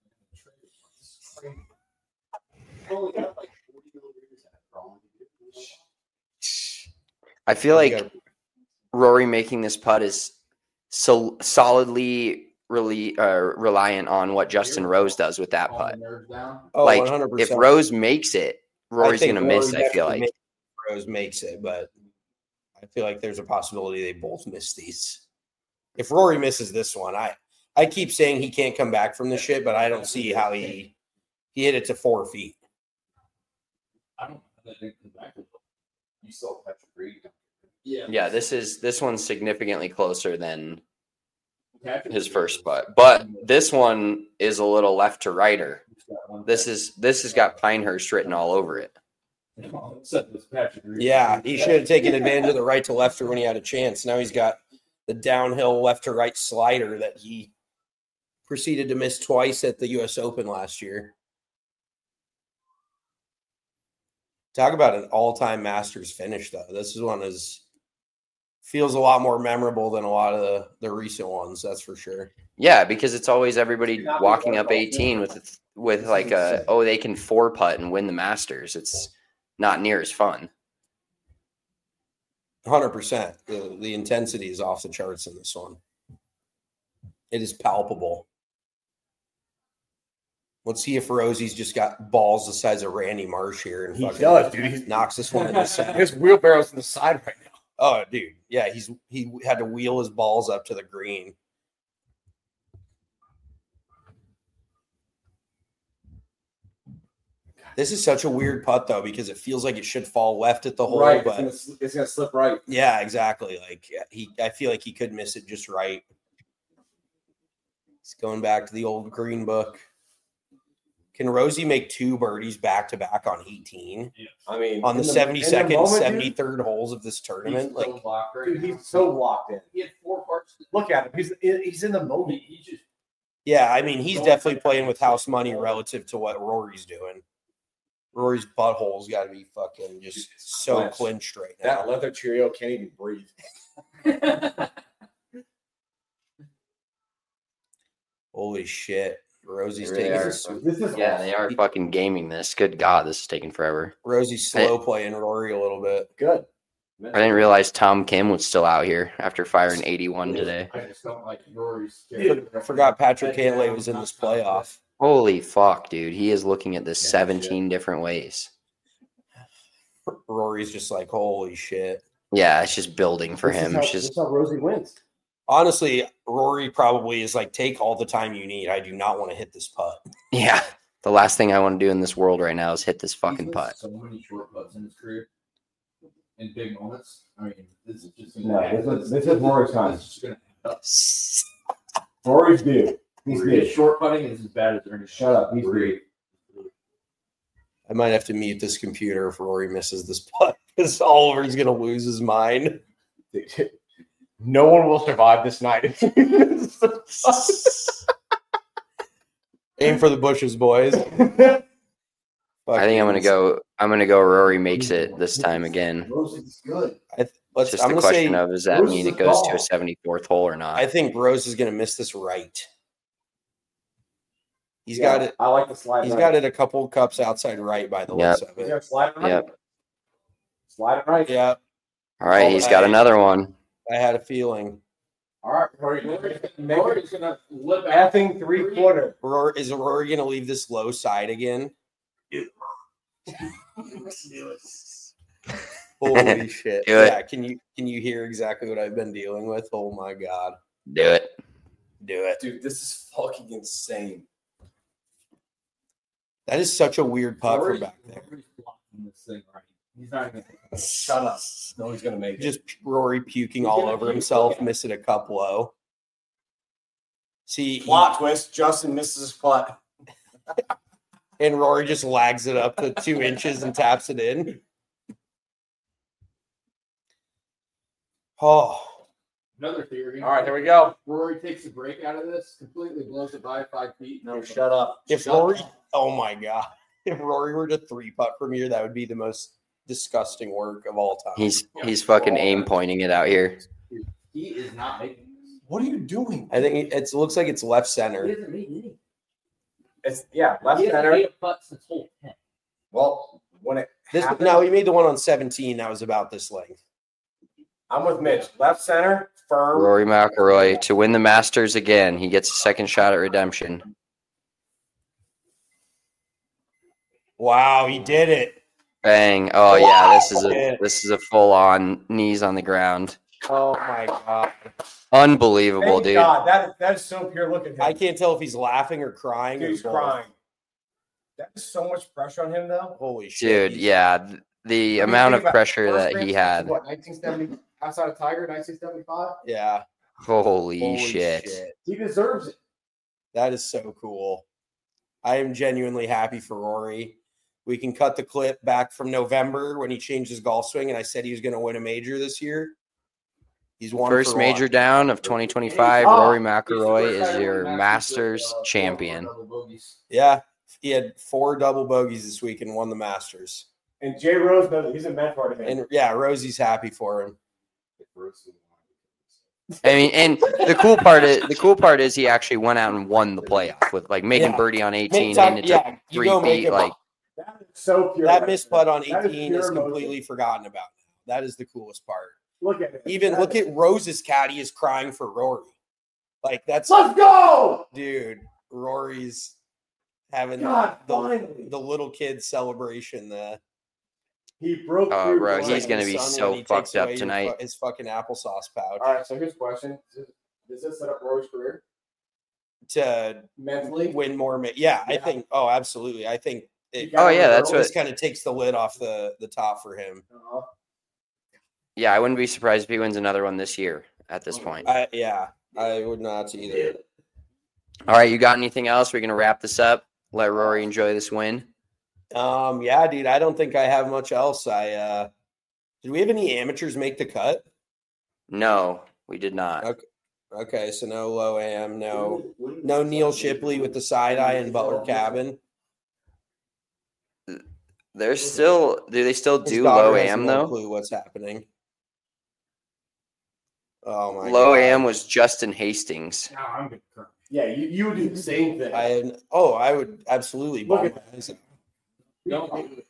I feel like Rory making this putt is so solidly really reliant on what Justin Rose does with that putt. Oh, Like 100%. if Rose makes it, Rory's think gonna miss. Rory I feel definitely like. Rose makes it, but I feel like there's a possibility they both miss these. If Rory misses this one, I keep saying he can't come back from this shit, but I don't see how he hit it to 4 feet. I don't know that come back. You still have to breathe. Yeah, this one's significantly closer than his first putt, but this one is a little left to righter. This has got Pinehurst written all over it. Yeah, he should have taken advantage of the right to lefter when he had a chance. Now he's got the downhill left to right slider that he proceeded to miss twice at the U.S. Open last year. Talk about an all-time Masters finish, though. This one feels a lot more memorable than a lot of the recent ones. That's for sure. Yeah, because it's always everybody walking up 18 with like they can 4-putt and win the Masters. It's not near as fun. 100%. The intensity is off the charts in this one. It is palpable. Let's see if Rosie's just got balls the size of Randy Marsh here and He fucking does, dude. He knocks this one in the side. His wheelbarrow's in the side right now. Oh, dude. Yeah, he had to wheel his balls up to the green. This is such a weird putt, though, because it feels like it should fall left at the hole. Right, But it's gonna slip right. yeah, exactly. Like I feel like he could miss it just right. He's going back to the old green book. Can Rosie make 2 birdies back to back on 18? I mean, On the in the 72nd, moment, dude, 73rd holes of this tournament, like dude, he's so locked in. He had 4 parts. Look at him. He's in the moment. He just yeah, I mean, he's definitely playing with house money relative to what Rory's doing. Rory's butthole's got to be fucking just so clinched right now. That leather Cheerio can't even breathe. Holy shit. Rosie's They taking are, they are fucking gaming this. Good God, this is taking forever. Rosie's slow playing Rory a little bit. Good. I didn't realize Tom Kim was still out here after firing 81 today. I just don't like Rory's. I forgot Patrick Cantlay was in this playoff. Holy fuck, dude. He is looking at this 17 different ways. Rory's just like, holy shit. Yeah, it's just building for him. It's This just is how Rosie wins. Honestly, Rory probably is like, take all the time you need. I do not want to hit this putt. yeah. The last thing I want to do in this world right now is hit this fucking putt. So many short putts in his career, in big moments. I mean, this is just This is Rory's time. It's just gonna Rory's due. He's His due. short putting is as bad as Ernest. Shut up. He's due. I might have to mute this computer if Rory misses this putt because Oliver's going to lose his mind. No one will survive this night. Aim for the bushes, boys. I think I'm gonna go. Rory makes it this time again. Rosie's good. It's just the question of does that Rose mean is it goes to a ball. 74th hole or not? I think Rose is going to miss this right. He's Yeah, got it. I like the slide. He's right. got it a couple cups outside right by the Yep. looks of He's it. got slide it right. Yep. Slide it right. Yeah, All right, he's got another one. I had a feeling. All right, Rory. Rory's gonna lip out. Effing 3/4. Is Rory going to leave this low side again? Holy shit! Do it. Yeah, can you hear exactly what I've been dealing with? Oh my god! Do it. Do it. Dude, this is fucking insane. That is such a weird putt from back there. Rory's blocking this thing right. He's not even. Shut up. No, he's gonna make it. Just Rory puking all over himself, missing a cup low. See, Plot twist: Justin misses his putt. And Rory just lags it up to 2 inches and taps it in. Oh. Another theory. All right, here we go. Rory takes a break out of this, completely blows it by 5 feet. No, shut up. If Rory, oh my God. If Rory were to 3-putt from here, that would be the most disgusting work of all time. He's fucking aim pointing it out here. He is not making this. What are you doing? I think it looks like it's left center. He doesn't make any. It's left He hasn't center. made a putt since hole 10. Well, when it happened, No, he made the one on 17 that was about this length. I'm with Mitch. Left center, firm. Rory McIlroy to win the Masters again. He gets a second shot at redemption. Wow, he did it. Bang! Oh yeah, this is a full on knees on the ground. Oh my God. Unbelievable, Thank dude. God, that is so pure. Look at him. I can't tell if he's laughing or crying. Dude, or he's both. crying. That is so much pressure on him, though. Holy shit. Dude, yeah, the amount of pressure that he had. What, 1970 outside of Tiger, 1975? Yeah. Holy shit. He deserves it. That is so cool. I am genuinely happy for Rory. We can cut the clip back from November when he changed his golf swing, and I said he was going to win a major this year. He's won First for major one. down of 2025. Rory McIlroy is your Masters champion. Yeah, he had 4 double bogeys this week and won the Masters. And Jay Rose knows he's a mentor to him. And yeah, Rosie's happy for him. I mean, and the cool part is he actually went out and won the playoff with like making birdie on 18 and it took 3 feet. Like that is so pure. That missed putt on That 18 is pure completely forgotten about now. That is the coolest part. Look at it. Even look at Rose's caddy is crying for Rory. Like that's Let's go, dude. Rory's having the little kid celebration. He broke oh, through. bro, he's gonna be Son so when he fucked takes up away tonight. his fucking applesauce pouch All right, so here's a question: does this set up Rory's career to mentally win more. Yeah, I think. Oh, absolutely. I think. That's this what kind of takes the lid off the top for him. Yeah, I wouldn't be surprised if he wins another one this year at this point. I would not either. All right, you got anything else? We're gonna wrap this up. Let Rory enjoy this win. Yeah, dude. I don't think I have much else. Did we have any amateurs make the cut? No, we did not. Okay, so no low am, no Neil Shipley with the side eye and Butler Cabin. Do they still His do daughter low has am no though? clue what's happening. Oh my Low God. am was Justin Hastings. No, I'm gonna cry. Yeah, you would do the same thing. I would absolutely. Look Bomb at it. Don't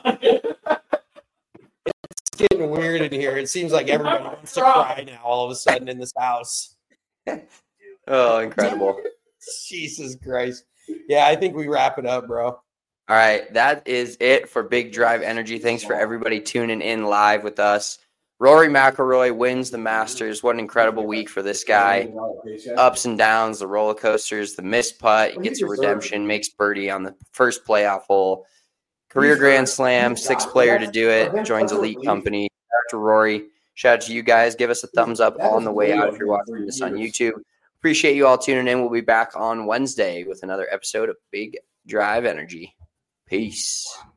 It's getting weird in here. It seems like everybody wants to cry now all of a sudden in this house. Oh, incredible. Jesus Christ. Yeah, I think we wrap it up, bro. All right, that is it for Big Drive Energy. Thanks for everybody tuning in live with us. Rory McIlroy wins the Masters. What an incredible week for this guy. Ups and downs, the roller coasters, the missed putt, gets a redemption, makes birdie on the first playoff hole. Career Grand Slam, 6th player to do it, joins elite company. Shout out to Rory. Shout out to you guys. Give us a thumbs up on the way out if you're watching this on YouTube. Appreciate you all tuning in. We'll be back on Wednesday with another episode of Big Drive Energy. Peace.